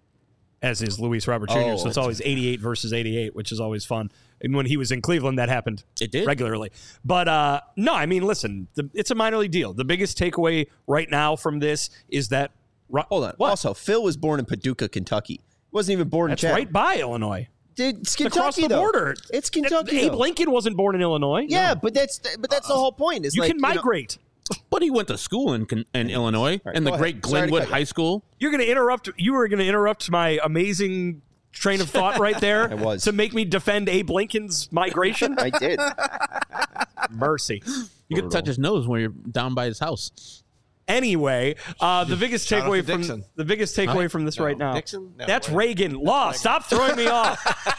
as is Luis Robert Jr. So it's always 88 versus 88, which is always fun. And when he was in Cleveland, that happened regularly. But no, I mean, listen, it's a minor league deal. The biggest takeaway right now from this is that. Hold on. What? Also, Phil was born in Paducah, Kentucky. He wasn't even born in Chatham. That's right by Illinois. It's Kentucky, across the border. It's Kentucky. Abe Lincoln wasn't born in Illinois. Yeah, but that's the whole point. Is you can migrate. But he went to school in Illinois, right, and the great Glenwood High School. You were going to interrupt my amazing train of thought right there. I was. To make me defend Abe Lincoln's migration. I did. Mercy. You could touch his nose when you're down by his house. Anyway, the biggest takeaway from this right now. Dixon? No, that's Reagan. Law, stop throwing me off.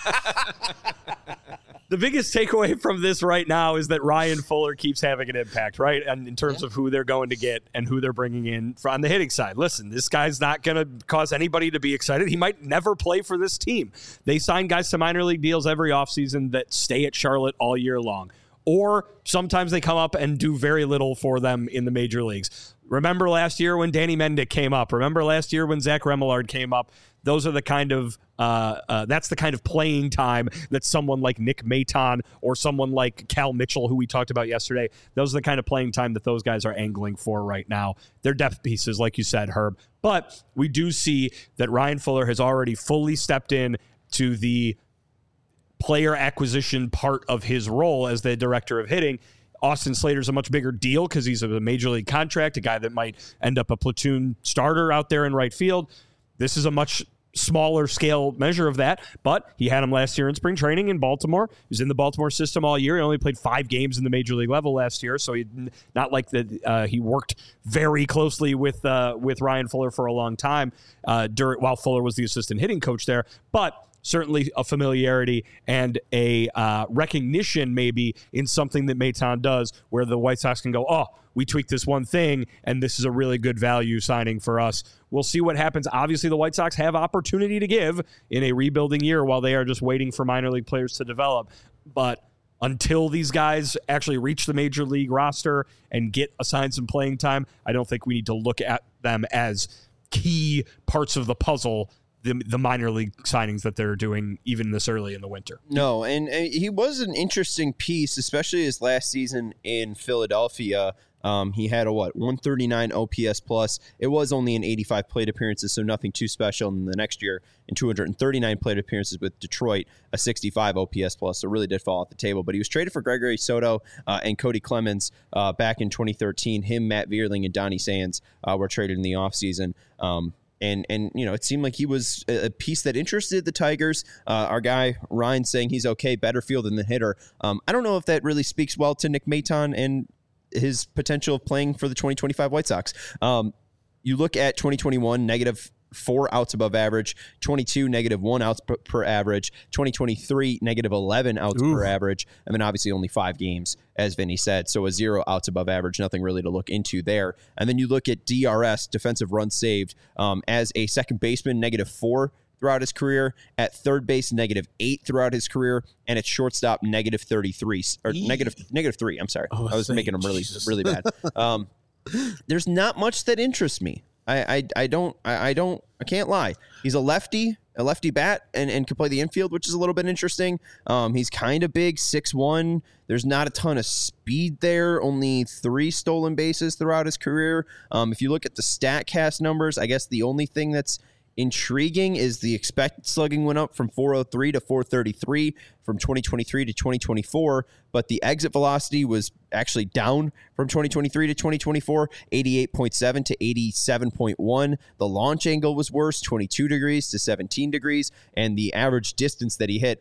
The biggest takeaway from this right now is that Ryan Fuller keeps having an impact, right? And in terms of who they're going to get and who they're bringing in on the hitting side. Listen, this guy's not going to cause anybody to be excited. He might never play for this team. They sign guys to minor league deals every offseason that stay at Charlotte all year long. Or sometimes they come up and do very little for them in the major leagues. Remember last year when Danny Mendick came up. Remember last year when Zach Remillard came up. Those are the kind of that's the kind of playing time that someone like Nick Maton or someone like Cal Mitchell, who we talked about yesterday, those are the kind of playing time that those guys are angling for right now. They're depth pieces, like you said, Herb. But we do see that Ryan Fuller has already fully stepped in to the player acquisition part of his role as the director of hitting. Austin Slater's a much bigger deal because he's a major league contract, a guy that might end up a platoon starter out there in right field. This is a much smaller scale measure of that, but he had him last year in spring training in Baltimore. He was in the Baltimore system all year. He only played 5 games in the major league level last year, so not like that. He worked very closely with Ryan Fuller for a long time while Fuller was the assistant hitting coach there, but certainly a familiarity and a recognition maybe in something that Maton does where the White Sox can go, oh, we tweaked this one thing, and this is a really good value signing for us. We'll see what happens. Obviously, the White Sox have opportunity to give in a rebuilding year while they are just waiting for minor league players to develop. But until these guys actually reach the major league roster and get assigned some playing time, I don't think we need to look at them as key parts of the puzzle, the minor league signings that they're doing even this early in the winter. No, and he was an interesting piece, especially his last season in Philadelphia. He had a 139 OPS plus. It was only in 85 plate appearances, so nothing too special. And the next year, in 239 plate appearances with Detroit, a 65 OPS plus. So really did fall off the table. But he was traded for Gregory Soto and Cody Clemens back in 2013. Him, Matt Vierling, and Donnie Sands were traded in the offseason. And it seemed like he was a piece that interested the Tigers. Our guy Ryan saying he's okay, better field than the hitter. I don't know if that really speaks well to Nick Maton and his potential of playing for the 2025 White Sox. You look at 2021, -4 outs above average, 22 -1 outs per average, 2023 -11 outs per average. I mean, obviously only 5 games, as Vinny said, so a 0 outs above average, nothing really to look into there. And then you look at DRS, defensive runs saved, as a second baseman, -4 throughout his career, at third base, -8 throughout his career, and at shortstop, -33 or -3. I'm sorry, I was making them really bad. There's not much that interests me. I can't lie. He's a lefty bat and can play the infield, which is a little bit interesting. He's kind of big, 6'1". There's not a ton of speed there, only 3 stolen bases throughout his career. If you look at the StatCast numbers, I guess the only thing that's intriguing is the expected slugging went up from 403 to 433 from 2023 to 2024, but the exit velocity was actually down from 2023 to 2024, 88.7 to 87.1. The launch angle was worse, 22 degrees to 17 degrees, and the average distance that he hit,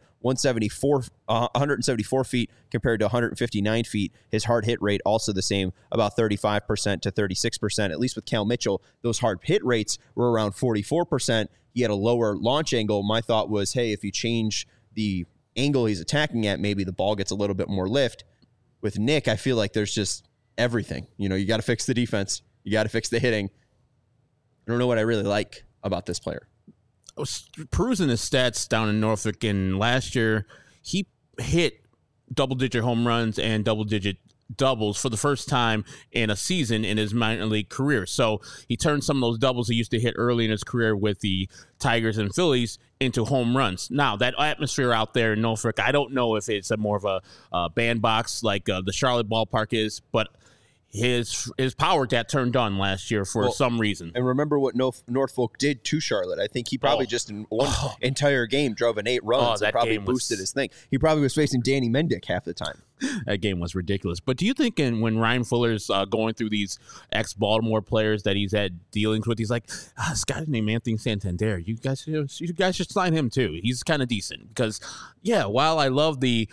174 feet compared to 159 feet. His hard hit rate also the same, about 35% to 36%. At least with Cal Mitchell, those hard hit rates were around 44%. He had a lower launch angle. My thought was, hey, if you change the angle he's attacking at, maybe the ball gets a little bit more lift. With Nick, I feel like there's just everything. You got to fix the defense. You got to fix the hitting. I don't know what I really like about this player. I was perusing his stats down in Norfolk, and last year he hit double-digit home runs and double-digit doubles for the first time in a season in his minor league career. So he turned some of those doubles he used to hit early in his career with the Tigers and Phillies into home runs. Now, that atmosphere out there in Norfolk, I don't know if it's more of a bandbox like the Charlotte ballpark is, but his power got turned on last year for some reason. And remember what Norfolk did to Charlotte. I think he probably just in one entire game drove in 8 runs and probably boosted his thing. He probably was facing Danny Mendick half the time. That game was ridiculous. But do you think when Ryan Fuller's going through these ex-Baltimore players that he's had dealings with, he's like, this guy named Anthony Santander, you guys should sign him too. He's kind of decent. Because, while I love the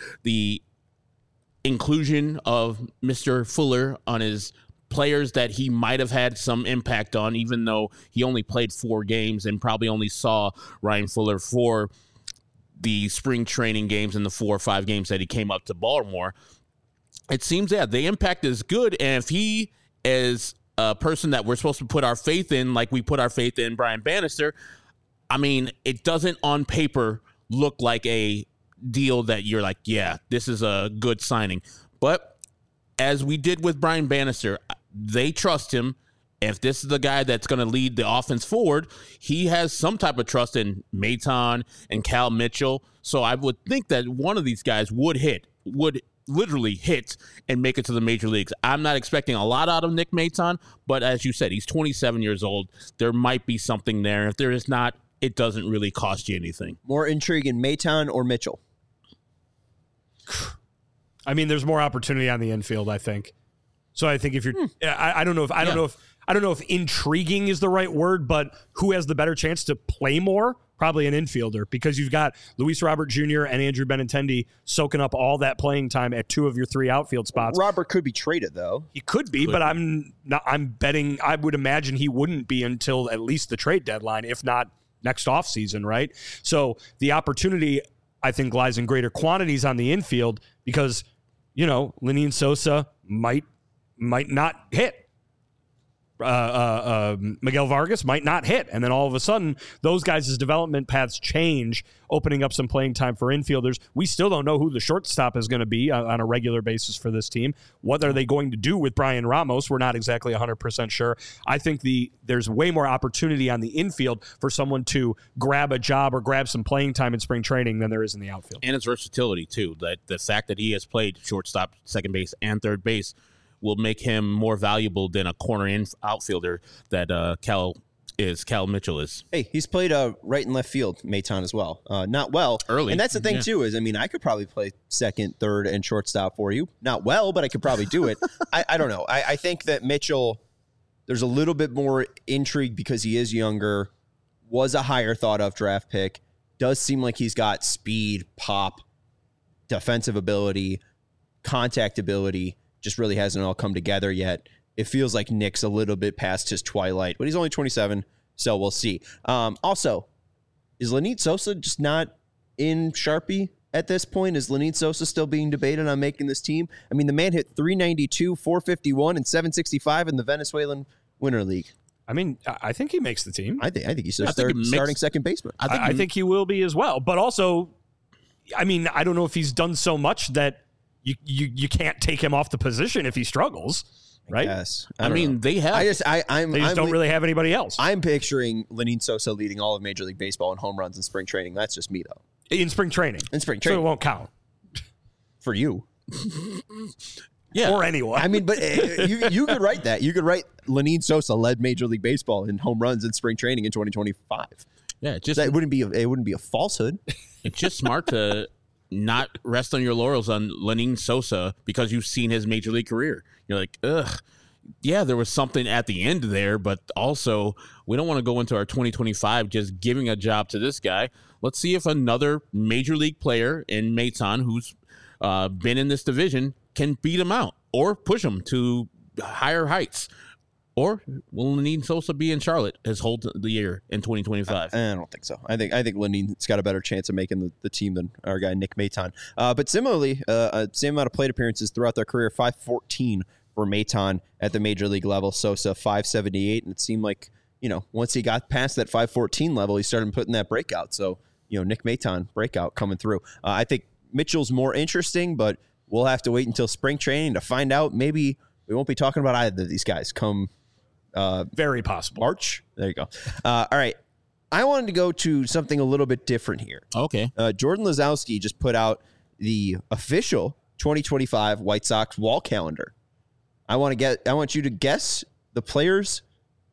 inclusion of Mr. Fuller on his players that he might have had some impact on, even though he only played 4 games and probably only saw Ryan Fuller for the spring training games and the 4 or 5 games that he came up to Baltimore. It seems the impact is good. And if he is a person that we're supposed to put our faith in, like we put our faith in Brian Bannister, I mean, it doesn't on paper look like a deal that you're like, this is a good signing. But as we did with Brian Bannister, they trust him. If this is the guy that's going to lead the offense forward, he has some type of trust in Maton and Cal Mitchell. So I would think that one of these guys would literally hit and make it to the major leagues. I'm not expecting a lot out of Nick Maton, but as you said, he's 27 years old. There might be something there. If there is not, it doesn't really cost you anything. More intriguing, Maton or Mitchell? I mean, there's more opportunity on the infield, I think. So I think if you're, I don't know if intriguing is the right word, but who has the better chance to play more? Probably an infielder, because you've got Luis Robert Jr. and Andrew Benintendi soaking up all that playing time at 2 of your 3 outfield spots. Robert could be traded, though. He could be, but I'm betting I would imagine he wouldn't be until at least the trade deadline, if not next offseason, right? So the opportunity, I think, lies in greater quantities on the infield because, Lenyn Sosa might not hit. Miguel Vargas might not hit. And then all of a sudden, those guys' development paths change, opening up some playing time for infielders. We still don't know who the shortstop is going to be on a regular basis for this team. What are they going to do with Brian Ramos? We're not exactly 100% sure. I think there's way more opportunity on the infield for someone to grab a job or grab some playing time in spring training than there is in the outfield. And his versatility, too. That the fact that he has played shortstop, second base, and third base will make him more valuable than a corner outfielder that Cal Mitchell is. Hey, he's played right and left field, Maton, as well. Not well. Early. And that's the thing, too, is, I could probably play second, third, and shortstop for you. Not well, but I could probably do it. I don't know. I think that Mitchell, There's a little bit more intrigue because he is younger, was a higher thought of draft pick, does seem like he's got speed, pop, defensive ability, contact ability, just really hasn't all come together yet. It feels like Nick's a little bit past his twilight, but he's only 27, so we'll see. Also, is Lenit Sosa just not in Sharpie at this point? Is Lenit Sosa still being debated on making this team? I mean, the man hit 392, 451, and 765 in the Venezuelan Winter League. I mean, I think he makes the team. I think he's starting second baseman. I think he will be as well. But also, I mean, I don't know if he's done so much that you can't take him off the position if he struggles, right? Yes. I mean, they have. They just don't really have anybody else. I'm picturing Lenit Sosa leading all of Major League Baseball in home runs in spring training. That's just me, though. In spring training. So it won't count. For you. Yeah. Or anyone. I mean, but you could write that. You could write Lenit Sosa led Major League Baseball in home runs in spring training in 2025. Yeah, It wouldn't be a falsehood. It's just smart to not rest on your laurels on Lenit Sosa because you've seen his Major League career. You're like, ugh. Yeah, there was something at the end there, but also we don't want to go into our 2025 just giving a job to this guy. Let's see if another Major League player in Maton who's been in this division can beat him out or push him to higher heights. Or will Lenit Sosa be in Charlotte his whole year in 2025? I don't think so. I think Lenit's got a better chance of making the team than our guy Nick Maton. But similarly, same amount of plate appearances throughout their career, 514 for Maton at the Major League level. Sosa 578, and it seemed like once he got past that 514 level, he started putting that breakout. So Nick Maton breakout coming through. I think Mitchell's more interesting, but we'll have to wait until spring training to find out. Maybe we won't be talking about either of these guys come very possible March. There you go. All right. I wanted to go to something a little bit different here. Okay. Jordan Lazowski just put out the official 2025 White Sox wall calendar. I want you to guess the players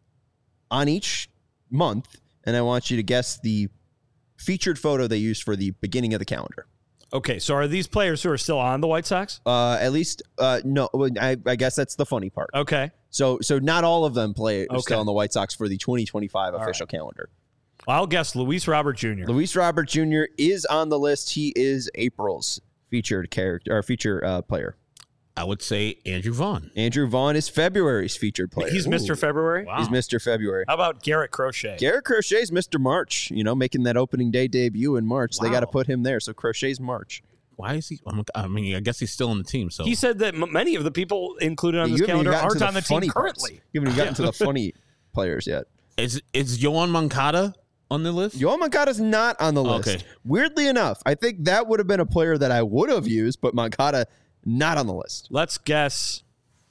on each month, and I want you to guess the featured photo they used for the beginning of the calendar. Okay, so are these players who are still on the White Sox? At least, no. I guess that's the funny part. Okay. So not all of them are still on the White Sox for the 2025 official calendar. Well, I'll guess Luis Robert Jr. Luis Robert Jr. is on the list. He is April's featured player. I would say Andrew Vaughn. Andrew Vaughn is February's featured player. He's Mr. February? Wow. He's Mr. February. How about Garrett Crochet? Garrett Crochet's Mr. March, making that opening day debut in March. Wow. They got to put him there. So Crochet's March. Why is he? I mean, I guess he's still on the team. So he said that many of the people included on this calendar aren't on the team currently. You haven't even gotten to the funny players yet. Is Yoan Moncada on the list? Yoan Moncada's not on the list. Okay. Weirdly enough, I think that would have been a player that I would have used, but Moncada not on the list. Let's guess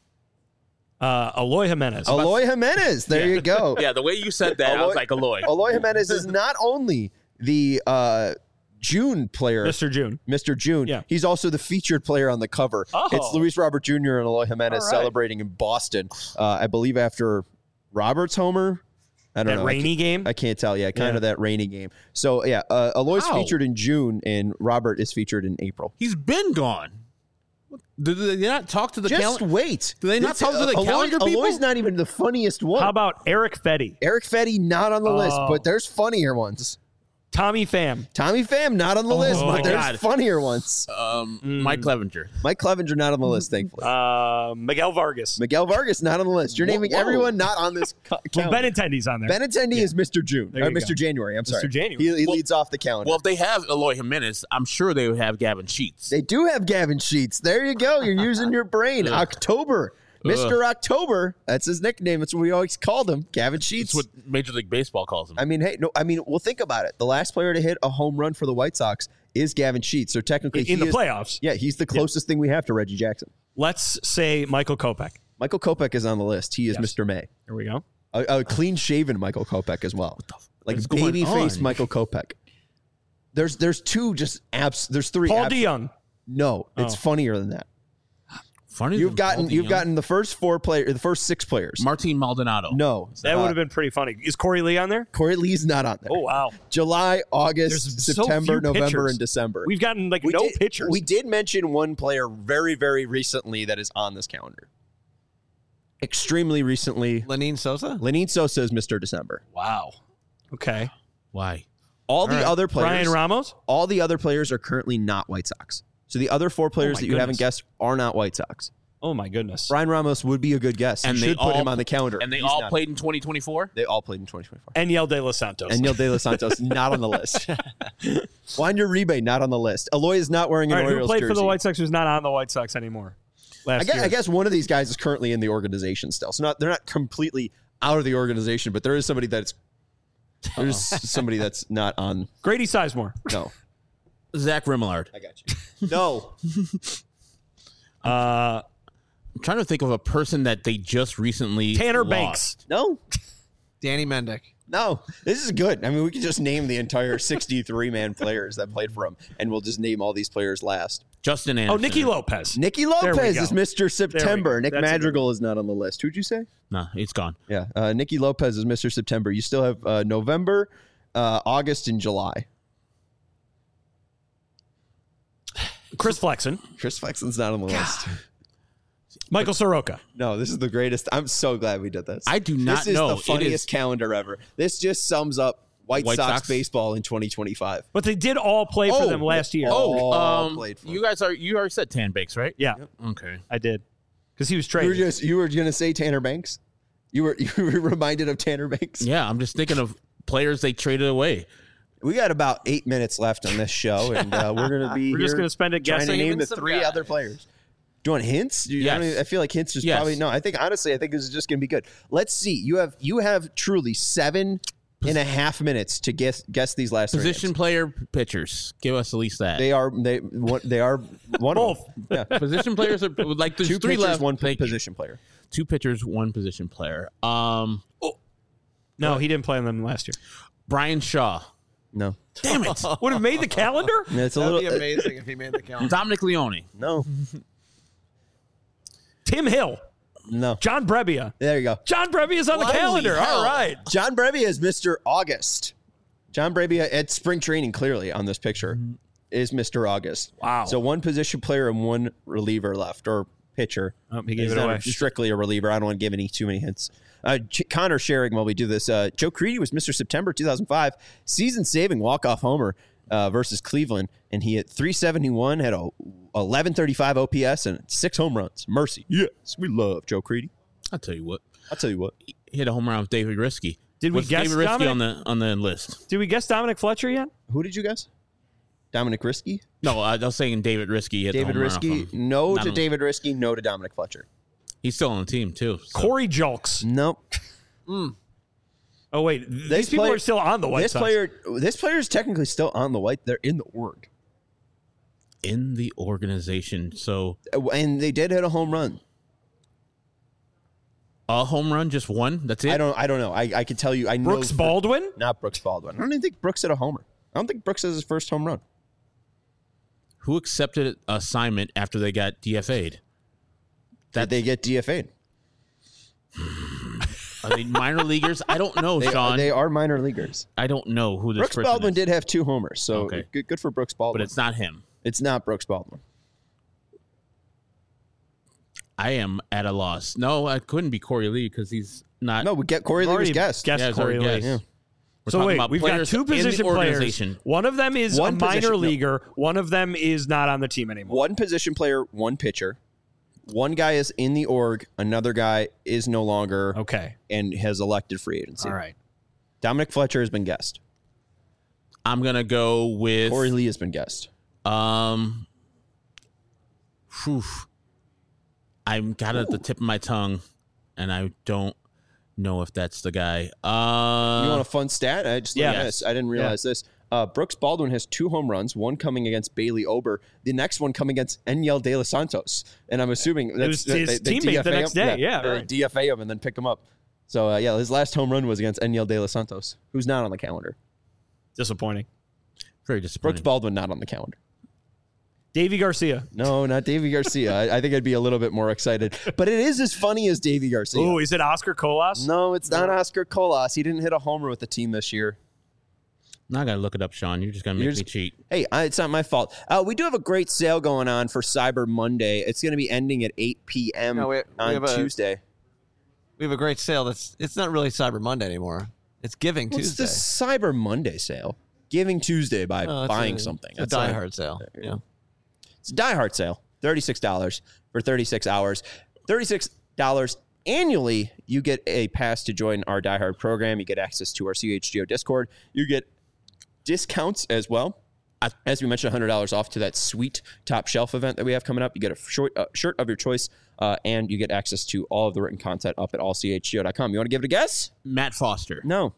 Eloy Jimenez. Eloy Jimenez. There you go. Yeah, the way you said that, I was like, Eloy. Eloy Jimenez is not only the June player. Mr. June. Yeah. He's also the featured player on the cover. Oh. It's Luis Robert Jr. and Eloy Jimenez celebrating in Boston, I believe after Robert's homer. I don't know. Rainy game? I can't tell. Yeah, kind of that rainy game. So, yeah, Eloy's featured in June, and Robert is featured in April. He's been gone. Do they not talk to the Just wait. Do they not talk to the calendar people? Eloy's not even the funniest one. How about Eric Fetty? Eric Fetty, not on the list, but there's funnier ones. Tommy Pham. Tommy Pham, not on the list, but there's funnier ones. Mike Clevenger. Mike Clevenger, not on the list, thankfully. Miguel Vargas. Miguel Vargas, not on the list. You're naming everyone not on this calendar. Well, Benintendi's on there. Benintendi is Mr. June. Or Mr. January, I'm sorry. Mr. January. He leads off the calendar. Well, if they have Eloy Jimenez, I'm sure they would have Gavin Sheets. They do have Gavin Sheets. There you go. You're using your brain. October. Mr. October. That's his nickname. That's what we always called him. Gavin Sheets. That's what Major League Baseball calls him. I mean, well, think about it. The last player to hit a home run for the White Sox is Gavin Sheets. So technically, in the playoffs. Yeah, he's the closest thing we have to Reggie Jackson. Let's say Michael Kopech. Michael Kopech is on the list. He is Mr. May. There we go. A clean-shaven Michael Kopech as well. Like baby-faced Michael Kopech. There's two just apps. There's three. Paul DeYoung. No, it's funnier than that. Funny. You've gotten the first the first six players. Martin Maldonado. No, that would have been pretty funny. Is Corey Lee on there? Corey Lee's not on there. Oh wow. July, August, There's September, so few November, pitchers. and December. We've gotten no pitchers. We did mention one player very, very recently that is on this calendar. extremely recently. Lenine Sosa? Lenine Sosa is Mr. December. Wow. Okay. Why? All the other players. Brian Ramos? All the other players are currently not White Sox. So the other 4 players that you haven't guessed are not White Sox. Oh, my goodness. Brian Ramos would be a good guess. And you they should put him on the calendar. And they He's all not. played in 2024? They all played in 2024. Enyel De Los Santos. Enyel De Los Santos, not on the list. Juan Uribe, not on the list. Eloy is not wearing an Orioles who played jersey. for the White Sox who's not on the White Sox anymore? I guess one of these guys is currently in the organization still. So they're not completely out of the organization, but there is somebody that's not on. Grady Sizemore. No. Zach Remillard. I got you. No. I'm trying to think of a person that they just recently Tanner lost. Banks. No. Danny Mendick. No. This is good. I mean, we could just name the entire 63-man players that played for him, and we'll just name all these players last. Justin Anderson. Oh, Nicky Lopez. Nicky There we Lopez go. is Mr. September. Nick That's Madrigal is not on the list. Who'd you say? No, it's gone. Yeah. Nicky Lopez is Mr. September. You still have November, August, and July. Chris Flexen. Chris Flexen's not on the list. Michael Soroka. No, this is the greatest. I'm so glad we did this. I do not This is know. the It funniest is- calendar ever. This just sums up White Sox baseball in 2025. But they did all play for them last year. All played for you already said Tan Banks, right? Yeah, Okay. I did. Because he was traded. You were going to say Tanner Banks? You were reminded of Tanner Banks? Yeah, I'm just thinking of players they traded away. We got about 8 minutes left on this show, and we're going to be We're just here going to spend it trying to guessing. name Even the some 3 guys. other players. Do you want hints? Yes. I feel like hints is Yes. probably no. I think this is just going to be good. Let's see. You have truly 7.5 minutes to guess these last 3 Position names. player pitchers. Give us at least that. They are one Both. of them. Yeah. Position players are like there's 2 three pitchers, left. 1 Thank you. position player. 2 pitchers, 1 position player. No, he didn't play on them last year. Brian Shaw. No, Damn it. Would have made the calendar? it's a That would little be amazing if he made the calendar. Dominic Leone. no, Tim Hill. no. John Brebbia. There you go. John Brebbia's on the Holy calendar. hell. All right. John Brebbia is Mr. August. John Brebbia at spring training, clearly on this picture, is Mr. August. Wow. So 1 position player and 1 reliever left, or pitcher. Oh, he gave He's it not away. strictly a reliever. I don't want to give too many hints. Connor sharing while we do this. Joe Creedy was Mr. September 2005, season-saving walk-off homer versus Cleveland, and he hit .371, had a 1135 OPS, and 6 home runs. Mercy. Yes, we love Joe Creedy. I'll tell you what. He He hit a home run with David Risky. Did we Was guess David Risky Dominic? on the list? Did we guess Dominic Fletcher yet? Who did you guess? Dominic Risky? No, I was saying David Risky hit David the home run off Risky? him. No Not to on- David Risky, no to Dominic Fletcher. He's still on the team too. So. Corey Julks. Nope. Oh, wait. These people player- are still on the White Sox. This player is technically still on the White. They're in the org. in the organization. So And they did hit a home run. a home run, just one. That's it. I don't know. I can tell you. I know Brooks Baldwin? Not Brooks Baldwin. I don't even think Brooks hit a homer. I don't think Brooks has his first home run. Who accepted assignment after they got DFA'd? Did they get DFA'd? Are they minor leaguers? I don't know, Sean. They are minor leaguers. I don't know who this Brooks person Baldwin is, did have 2 homers, so Okay. good for Brooks Baldwin. but it's not him. It's not Brooks Baldwin. I am at a loss. No, I couldn't be Corey Lee because he's not. No, we get Corey Lee was Already guessed. guessed Yeah, it's Corey already Lee. guessed. We're So talking wait, about we've got players 2 in the position players. organization. One of them is One a minor position- no. leaguer. One of them is not on the team anymore. 1 position player, 1 pitcher. 1 guy is in the org. Another guy is no longer Okay. and has elected free agency. All right. Dominic Fletcher has been guessed. I'm gonna go with Corey Lee has been guessed. Whew. I'm got it at the tip of my tongue, and I don't know if that's the guy. You want a fun stat? I just learned Yeah. this. I didn't realize this. Brooks Baldwin has 2 home runs, 1 coming against Bailey Ober, the next one coming against Enyel De Los Santos. And I'm assuming was his teammate the next day. Yeah, they right. DFA him and then pick him up. So, his last home run was against Enyel De Los Santos, who's not on the calendar. Disappointing. Very Brooks disappointing. Baldwin not on the calendar. Davey Garcia. No, not Davey Garcia. I think I'd be a little bit more excited. But it is as funny as Davey Garcia. Oh, is it Oscar Colas? No, it's not Oscar Colas. He didn't hit a homer with the team this year. Now I gotta look it up, Sean. You're just gonna make me cheat. Hey, it's not my fault. We do have a great sale going on for Cyber Monday. It's going to be ending at 8 p.m. No, we on have a- Tuesday. We have a great sale. It's not really Cyber Monday anymore. It's Giving Tuesday. It's the Cyber Monday sale. Giving Tuesday by buying something. It's a Die Hard sale. Yeah. It's a Die Hard sale. $36 for 36 hours. $36 annually. You get a pass to join our Die Hard program. You get access to our CHGO Discord. You get discounts as well. As we mentioned, $100 off to that sweet Top Shelf event that we have coming up. You get a shirt of your choice, and you get access to all of the written content up at allchgo.com. You want to give it a guess? Matt Foster. No.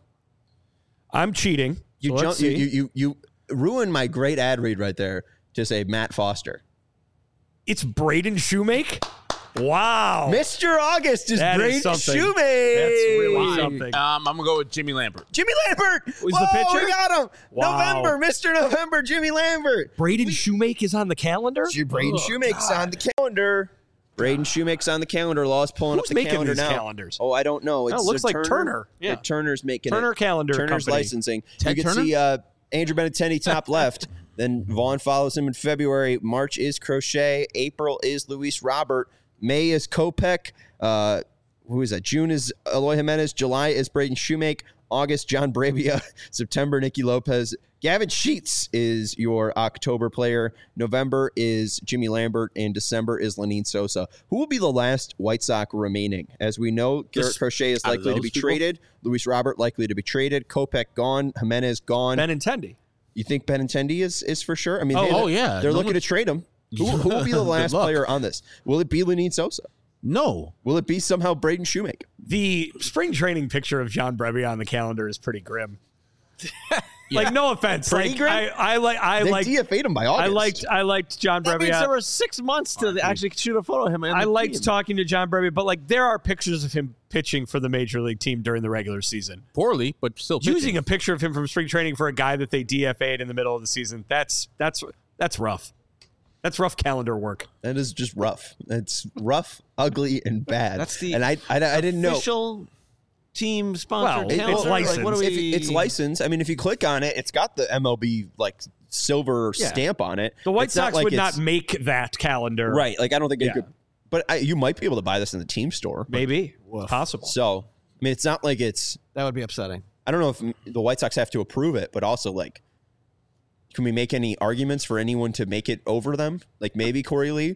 I'm cheating. You ruined my great ad read right there to say Matt Foster. It's Braden Shoemake? Wow. Mr. August is That is Braden something. Shoemake. That's really something. I'm going to go with Jimmy Lambert. Jimmy Lambert. Was the pitcher? We got him. Wow. November, Mr. November, Jimmy Lambert. Braden Shoemake is on the calendar? Braden Shoemake's on the calendar. Braden Shoemake's on the calendar. Law's pulling Who's up the making calendar these now. calendars? Oh, I don't know. Oh, it looks like Turner. Yeah, Turner's making Turner it. Calendar Turner's Company. licensing. Ted you can Turner? see Andrew Benintendi top left. Then Vaughn follows him in February. March is Crochet. April is Luis Robert. May is Kopech. Who is that? June is Eloy Jimenez. July is Braden Shoemake. August, John Bravia. September, Nicky Lopez. Gavin Sheets is your October player. November is Jimmy Lambert. And December is Lenine Sosa. Who will be the last White Sox remaining? As we know, Garrett Crochet is out of likely to those be people? traded. Luis Robert likely to be traded. Kopech gone. Jimenez gone. Benintendi. You think Benintendi is for sure? I mean, yeah. They're No looking one- to trade him. Who will be the Good last luck. player on this? Will it be Lenine Sosa? No. Will it be somehow Braden Shoemake? The spring training picture of John Brebbia on the calendar is pretty grim. Like, no offense. Pretty Like, grim? I They like DFA'd him by August. I liked John That means there Brebbia. were 6 months to actually shoot a photo of him. I liked talking to John Brebbia, but like there are pictures of him pitching for the major league team during the regular season. Poorly, but still pitching. Using a picture of him from spring training for a guy that they DFA'd in the middle of the season, that's rough. That's rough calendar work. That is just rough. It's rough, ugly, and bad. That's the and I didn't know. official team sponsored Well, calendar. it's licensed. Like, what do we? It's licensed. I mean, if you click on it, it's got the MLB like silver Yeah. stamp on it. The White It's not Sox like would it's- not make that calendar. right. Like I don't think Yeah. it could. But you might be able to buy this in the team store. Maybe. Possible. So I mean, it's not like it's. That would be upsetting. I don't know if the White Sox have to approve it, but also like, can we make any arguments for anyone to make it over them? Like maybe Corey Lee,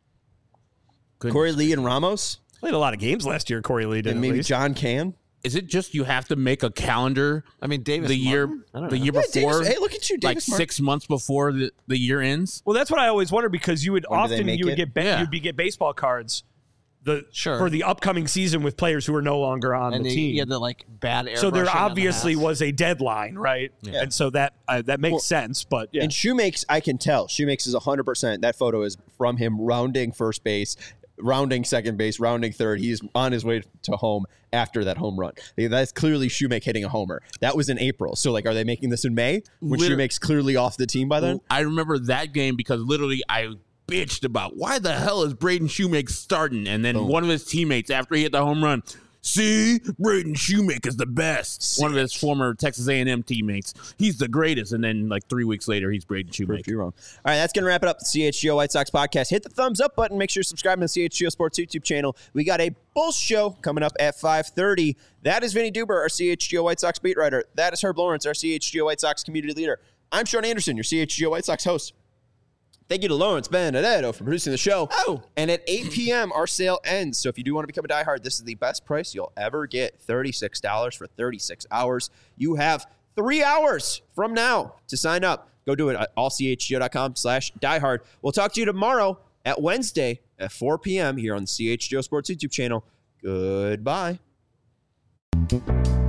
Goodness. Corey Lee and Ramos, Played a lot of games last year, Corey Lee did and at maybe least. John Can. Is it just you have to make a calendar I mean, Davis. the year Martin? I don't the know. year Yeah, before? Davis, hey, look at you, like Davis Martin. 6 months before the year ends? Well, that's what I always wonder because you would When do they often make you would it? get Yeah. you'd get baseball cards Sure. for the upcoming season with players who are no longer on And the he team. had the like bad air. So there brushing on the obviously hats. was a deadline, right? Yeah. And so that makes Well, sense. But yeah, And Shoemakes, I can tell. Shoemakes is 100%. That photo is from him rounding first base, rounding second base, rounding third. He's on his way to home after that home run. That's clearly Shoemake hitting a homer. That was in April. So, like, are they making this in May? When Shoemake's clearly off the team by then? I remember that game because literally I bitched about why the hell is Braden Shoemake starting? And then one of his teammates, after he hit the home run, see, Braden Shoemake is the best. One of his former Texas A&M teammates. He's the greatest. And then like 3 weeks later, he's Braden Shoemake. You're wrong. All right, that's going to wrap it up. The CHGO White Sox podcast. Hit the thumbs up button. Make sure you're subscribing to the CHGO Sports YouTube channel. We got a Bulls show coming up at 5:30. That is Vinny Duber, our CHGO White Sox beat writer. That is Herb Lawrence, our CHGO White Sox community leader. I'm Sean Anderson, your CHGO White Sox host. Thank you to Lawrence Benedetto for producing the show. Oh, and at 8 p.m., our sale ends. So if you do want to become a diehard, this is the best price you'll ever get. $36 for 36 hours. You have 3 hours from now to sign up. Go do it at allchgo.com/diehard. We'll talk to you tomorrow at Wednesday at 4 p.m. here on the CHGO Sports YouTube channel. Goodbye.